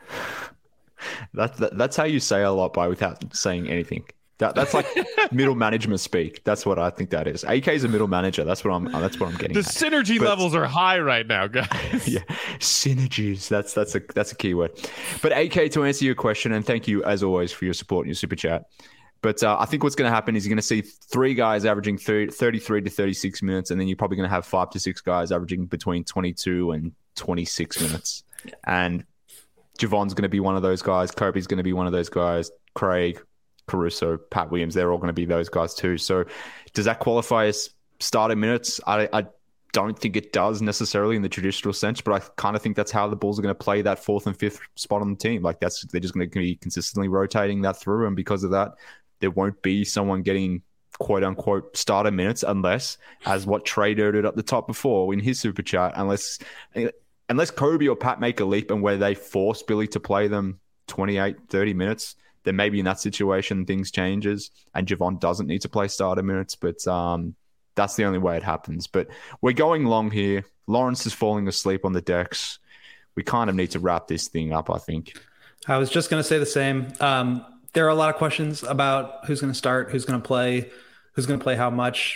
That's that, that's how you say a lot by without saying anything. That that's like middle management speak. That's what I think that is. A K is a middle manager. That's what I'm. That's what I'm getting. The at. synergy but, levels are high right now, guys. Yeah, synergies. That's that's a that's a key word. But A K, to answer your question, and thank you as always for your support and your super chat. But uh, I think what's going to happen is you're going to see three guys averaging thirty, thirty-three to thirty-six minutes, and then you're probably going to have five to six guys averaging between twenty-two and twenty-six minutes. And Javon's going to be one of those guys. Kobe's going to be one of those guys. Craig, Caruso, Pat Williams, they're all going to be those guys too. So does that qualify as starter minutes? I, I don't think it does necessarily in the traditional sense, but I kind of think that's how the Bulls are going to play that fourth and fifth spot on the team. Like that's, they're just going to be consistently rotating that through. And because of that, there won't be someone getting quote unquote starter minutes unless, as what Trey noted at the top before in his super chat, unless, unless Kobe or Pat make a leap and where they force Billy to play them twenty-eight, thirty minutes, then maybe in that situation things changes and Javon doesn't need to play starter minutes. But um, that's the only way it happens. But we're going long here. Lawrence is falling asleep on the decks. We kind of need to wrap this thing up, I think. I was just going to say the same. Um, there are a lot of questions about who's going to start, who's going to play, who's going to play how much.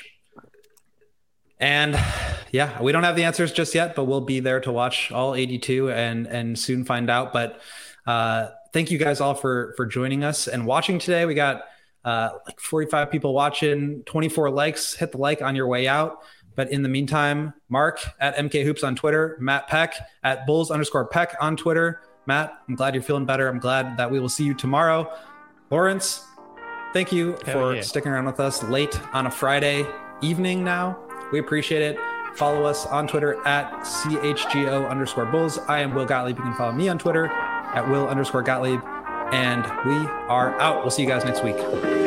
And yeah, we don't have the answers just yet, but we'll be there to watch all eighty-two and and soon find out. But uh, thank you guys all for for joining us and watching today. We got uh, like forty-five people watching, twenty-four likes. Hit the like on your way out. But in the meantime, Mark at M K Hoops on Twitter, Matt Peck at Bulls underscore Peck on Twitter. Matt, I'm glad you're feeling better. I'm glad that we will see you tomorrow. Lawrence, thank you Hell for yeah. sticking around with us late on a Friday evening now. We appreciate it. follow us on Twitter at C H G O underscore Bulls. I am Will Gottlieb. You can follow me on Twitter at Will underscore Gottlieb. And we are out. We'll see you guys next week.